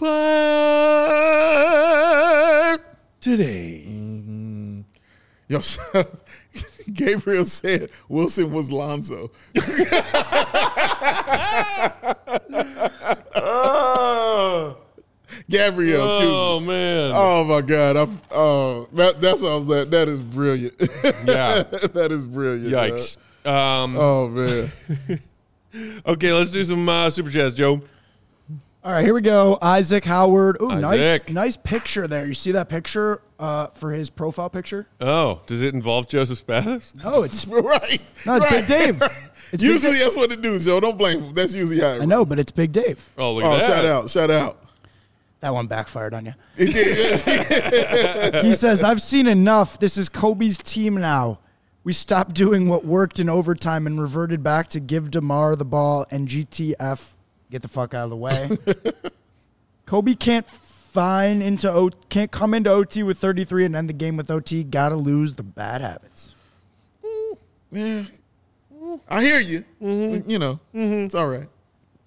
Empire. Today. Mm-hmm. Yo, Gabriel said Wilson was Lonzo. Oh, Gabriel, excuse me. oh man. Oh my God! I, oh, that, that's what I was like. That is brilliant. Yeah. that is brilliant. Yikes. Um, man. Oh man. Okay, let's do some uh, super chats, Joe. All right, here we go. Isaac Howard. Ooh, nice, Isaac. nice picture there. You see that picture uh, for his profile picture? Oh, does it involve Joseph Spathis? No, it's right. no, it's right. Big Dave. It's Big Usually Dave. that's what it do, Joe. Don't blame him. That's usually how it I know, but it's Big Dave. Oh, look Oh, at that. shout out, shout out. That one backfired on you. It did. He says, "I've seen enough. This is Kobe's team now. We stopped doing what worked in overtime and reverted back to give DeMar the ball and G T F get the fuck out of the way." Kobe can't find into o- can't come into O T with thirty-three and end the game with O T. Gotta lose the bad habits. Yeah, I hear you. Mm-hmm. You know, mm-hmm. It's all right.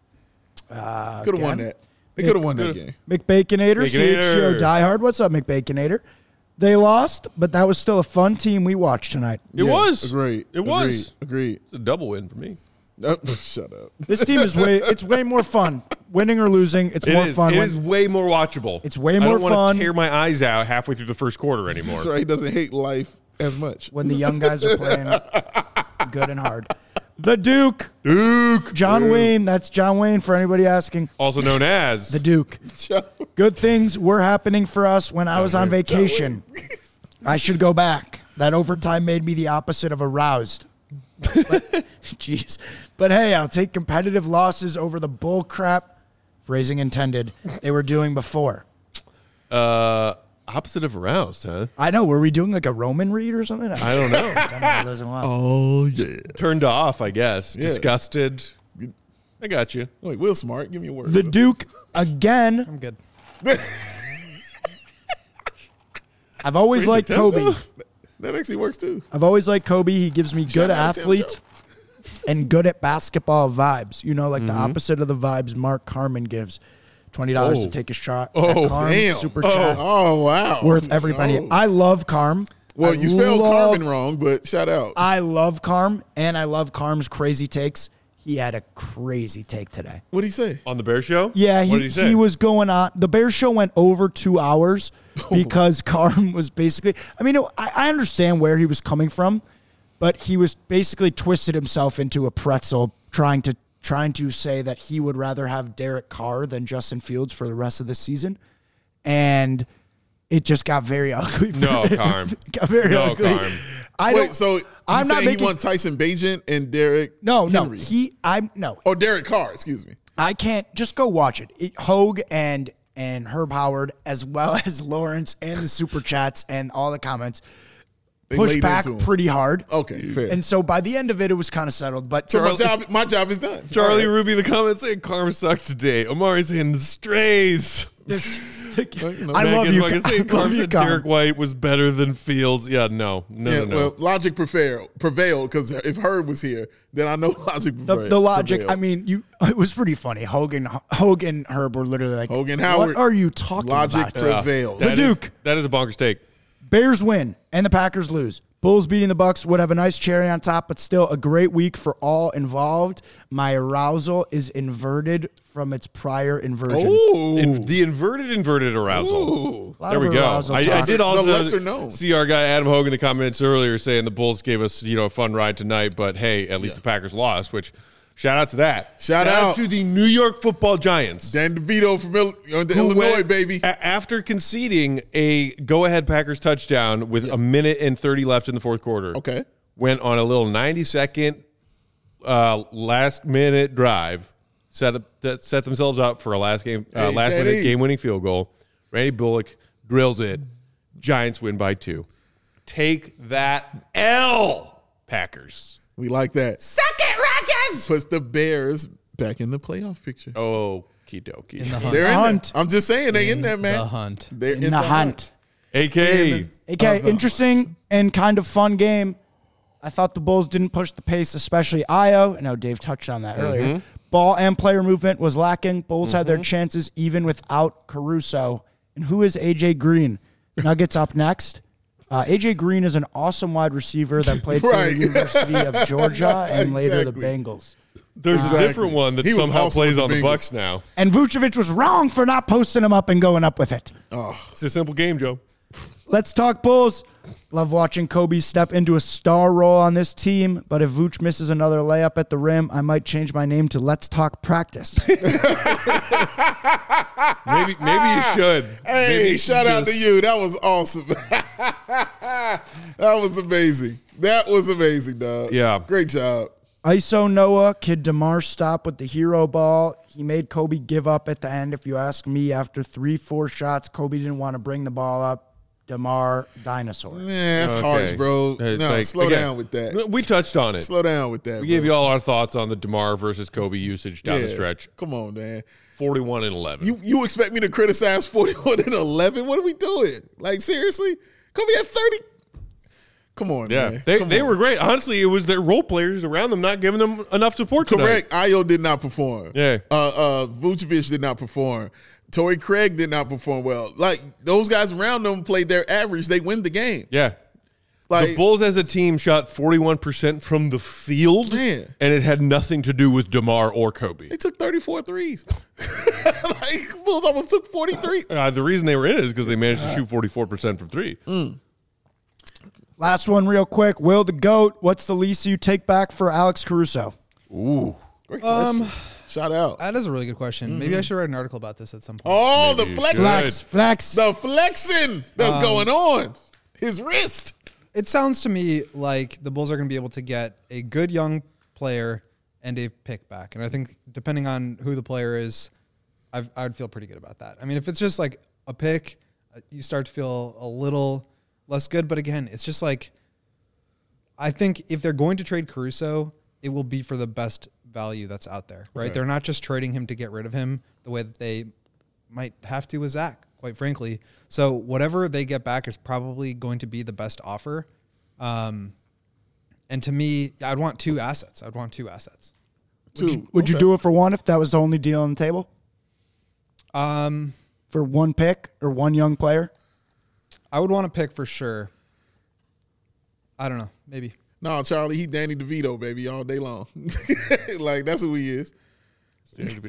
Uh, Could have won again? that. They could have won that game. McBaconator, C H G O Baconator. Diehard. What's up, McBaconator? They lost, but that was still a fun team we watched tonight. It Yeah, was. Agreed. It was. Agreed. It's a double win for me. Agreed. Oh, shut up. This team is way it's way more fun. Winning or losing, it's It more is. fun. It when- is way more watchable. It's way I more don't want fun. to tear my eyes out halfway through the first quarter anymore. That's right. He doesn't hate life as much. when the young guys are playing good and hard. The Duke. Duke. John Duke. Wayne. That's John Wayne for anybody asking. Also known as The Duke. Good things were happening for us when I was on vacation. I should go back. That overtime made me the opposite of aroused. But, jeez. But hey, I'll take competitive losses over the bull crap, phrasing intended, they were doing before. uh, opposite of aroused, huh? I know. Were we doing like a Roman read or something? I don't know. I don't know. Oh, yeah. Turned off, I guess. Yeah. Disgusted. I got you. Wait, Will Smart, give me a word. The Duke again. I'm good. I've always Crazy liked Tempo? Kobe. That actually works too. I've always liked Kobe. He gives me good Shout out to Tim athlete and good at basketball vibes. You know, like Mm-hmm. the opposite of the vibes Mark Carmen gives. twenty dollars Oh. to take a shot. Oh, at Carm, Damn. Super oh, chat. oh, wow. Worth every penny. Oh. I love Carm. Well, I you spelled love- Carmen wrong, but shout out. I love Carm, and I love Carm's crazy takes. He had a crazy take today. What'd he say? On the Bear Show? Yeah, What he, did he say? he was going on. The Bear Show went over two hours because Carm was basically. I mean, I, I understand where he was coming from, but he was basically twisted himself into a pretzel, trying to trying to say that he would rather have Derek Carr than Justin Fields for the rest of the season, and it just got very ugly. for No, him. Carm. got very No, ugly. Carm. I Wait, don't. so you I'm not saying making- he want Tyson Bagent and Derek no, no. Henry? He. I'm no. Oh, Derek Carr, excuse me. I can't just go watch it. it. Hogue and and Herb Howard, as well as Lawrence and the super chats and all the comments, They pushed laid back into him. pretty hard. Okay, fair. And so by the end of it, it was kind of settled. But so my Charlie- job, my job is done. Charlie All right. Ruby, the comments saying Carm sucks today. Omari saying the strays. this, Well, you know, I love Megan you. fucking I saying Carm love you, said Carm. Derek White was better than Fields. Yeah, no. No, Yeah, no, no. well, logic prevailed prevailed because if Herb was here, then I know logic The, prevailed. the logic. prevailed. I mean, you. It was pretty funny. Hogan, Hogan, and Herb were literally like, Hogan Howard, what are you talking logic about?" prevailed. prevailed. That The is- Duke. that is a bonkers take. Bears win and the Packers lose. Bulls beating the Bucks would have a nice cherry on top, but still a great week for all involved. My arousal is inverted from its prior inversion. In- the inverted inverted arousal. Ooh. A lot There of we go. arousal I, I talk. did The also lesser known. see our guy Adam Hogan in the comments earlier saying the Bulls gave us you know a fun ride tonight, but hey, at least the Packers lost. Which shout out to that. Shout out. to the New York Football Giants. Dan DeVito from Il- uh, the who Illinois, went- baby. a- after conceding a go-ahead Packers touchdown with a minute and thirty left in the fourth quarter. Okay. Went on a little ninety-second uh, last-minute drive, set up that set themselves up for a last game, uh, Hey, last-minute Daddy. game-winning field goal. Randy Bullock drills it. Giants win by two. Take that L, Packers. We like that. Suck it, Rodgers. Puts the Bears back in the playoff picture. Oh, dokie. In the hunt. They're in Hunt. there. I'm just saying they in there, man. The hunt. They're In the hunt. A K. Okay, Of the interesting and kind of fun game. I thought the Bulls didn't push the pace, especially Io. I know Dave touched on that earlier. ball and player movement was lacking. Bulls had their Mm-hmm. chances even without Caruso. And who is A J Green? Nuggets up next. Uh, A J Green is an awesome wide receiver that played for Right. the University of Georgia and later the Exactly. Bengals. There's Exactly. a different one that He was somehow also plays with on the the Bengals. Bucks now. And Vucevic was wrong for not posting him up and going up with it. It's a simple game, Joe. Let's talk Bulls. Love watching Kobe step into a star role on this team, but if Vooch misses another layup at the rim, I might change my name to Let's Talk Practice. Maybe maybe you should. Hey, Maybe you shout should out just- to you. That was awesome. That was amazing. That was amazing, dog. Yeah. Great job. I S O Noah, Kid DeMar stop with the hero ball. He made Kobe give up at the end. If you ask me, after three, four shots, Kobe didn't want to bring the ball up. DeMar, dinosaur. Yeah, that's Okay. harsh, bro. Uh, No, like, slow again, down with that. We touched on it. Slow down with that. We gave you all our thoughts on the DeMar versus Kobe usage down the stretch. Come on, man. forty-one and eleven. You you expect me to criticize forty-one and eleven? What are we doing? Like, seriously? Kobe had thirty. Come on, yeah, man. they Come they on. were great. Honestly, it was their role players around them not giving them enough support tonight. Correct. Ayo did not perform. Yeah. Uh, uh, Vucevic did not perform. Torrey Craig did not perform well. Like, those guys around them played their average. They win the game. Yeah. Like, The Bulls as a team shot forty-one percent from the field, Man. and it had nothing to do with DeMar or Kobe. they took thirty-four threes. Like, Bulls almost took forty-three. Uh, the reason they were in it is because they managed to shoot forty-four percent from three. Last one real quick. Will the GOAT, what's the least you take back for Alex Caruso? Ooh. Great Um, question. Shout out. That is a really good question. Maybe I should write an article about this at some point. Oh, Maybe the you flex. should. Flex, flex. The flexing that's Um, going on. His wrist. It sounds to me like the Bulls are going to be able to get a good young player and a pick back. And I think depending on who the player is, I've, I would feel pretty good about that. I mean, if it's just like a pick, uh, you start to feel a little less good. But again, it's just like, I think if they're going to trade Caruso, it will be for the best value that's out there, right? Okay. They're not just trading him to get rid of him the way that they might have to with Zach, quite frankly. So whatever they get back is probably going to be the best offer. Um, and to me, I'd want two assets. I'd want two assets. Two. Would you Okay. do it for one if that was the only deal on the table? Um, For one pick or one young player? I would want to pick for sure. I don't know, maybe. No, Charlie, he Danny DeVito, baby, all day long. Like, that's who he is. It's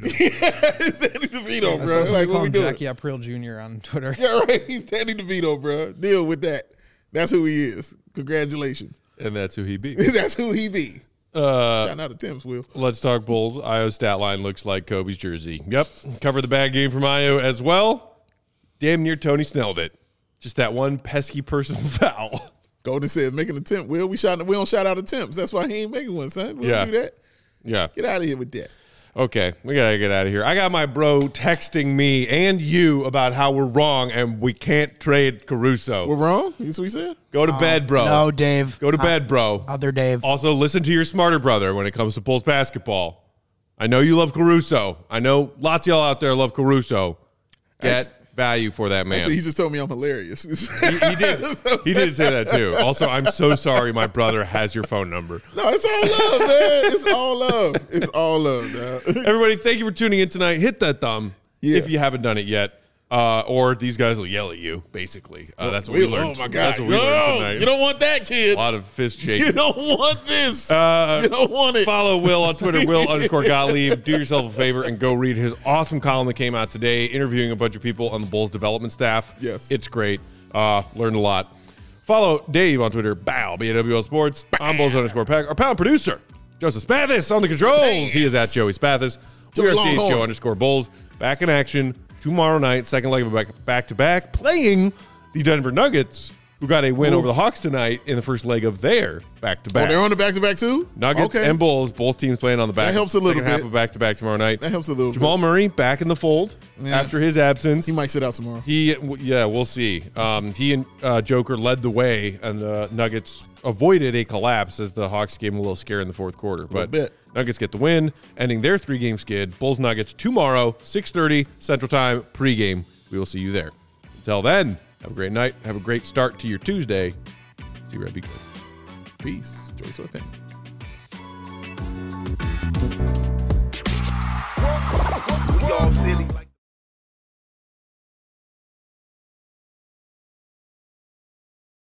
Danny DeVito, I bro. saw somebody Like, call what we him doing? Jackie April Junior on Twitter. Yeah, right. He's Danny DeVito, bro. Deal with that. That's who he is. Congratulations. And that's who he beat. That's who he be. Uh, Shout out to Tim's Will. Let's talk Bulls. Io's stat line looks like Kobe's jersey. Yep. Cover the bad game from Io as well. Damn near Tony Snelled it. Just that one pesky personal foul. Golden said, make an attempt. Will we shout? We don't shout out attempts. That's why he ain't making one, son. We Yeah. don't do that. Yeah. Get out of here with that. Okay, we gotta get out of here. I got my bro texting me and you about how we're wrong and we can't trade Caruso. We're wrong. That's what he said. Go to bed, bro. No, Dave. Go to bed, bro. Other Dave. Also, listen to your smarter brother when it comes to Bulls basketball. I know you love Caruso. I know lots of y'all out there love Caruso. Get Actually- value for that man. Actually, he just told me I'm hilarious. he, he did. He did say that too. Also, I'm so sorry my brother has your phone number. No, it's all love, man. It's all love. It's all love, dog. Everybody, thank you for tuning in tonight. Hit that thumb Yeah. if you haven't done it yet. Uh, or these guys will yell at you, basically. Uh, that's what we, We- learned. Oh my God! That's what we no, learned tonight. you don't want that, kids. A lot of fist You shaking. don't want this. Uh, you don't want it. Follow Will on Twitter, Will underscore Gottlieb. Do yourself a favor and go read his awesome column that came out today, interviewing a bunch of people on the Bulls development staff. Yes. It's great. Uh, learned a lot. Follow Dave on Twitter, Bow, B A W L Sports. I'm Bulls underscore Pack. Our pound producer, Joseph Spathis on the controls. He is at Joey Spathis. We Joey are C H G O Longhorn. underscore Bulls. Back in action tomorrow night, second leg of a back, back-to-back, playing the Denver Nuggets, who got a win Ooh. over the Hawks tonight in the first leg of their back-to-back. Oh, they're on the back to back too. Nuggets Okay. and Bulls, both teams playing on the back. That helps a little second half bit. of back to back tomorrow night. That helps a little Jamal bit. Murray back in the fold Yeah. after his absence. He might sit out tomorrow. He, w- yeah, we'll see. Um, he and uh, Joker led the way, and the Nuggets avoided a collapse as the Hawks gave him a little scare in the fourth quarter. But bit. Nuggets get the win, ending their three-game skid. Bulls Nuggets tomorrow, six thirty Central Time pregame. We will see you there. Until then, have a great night. Have a great start to your Tuesday. See you, Red. Be good. Peace. Joy Sweatpants.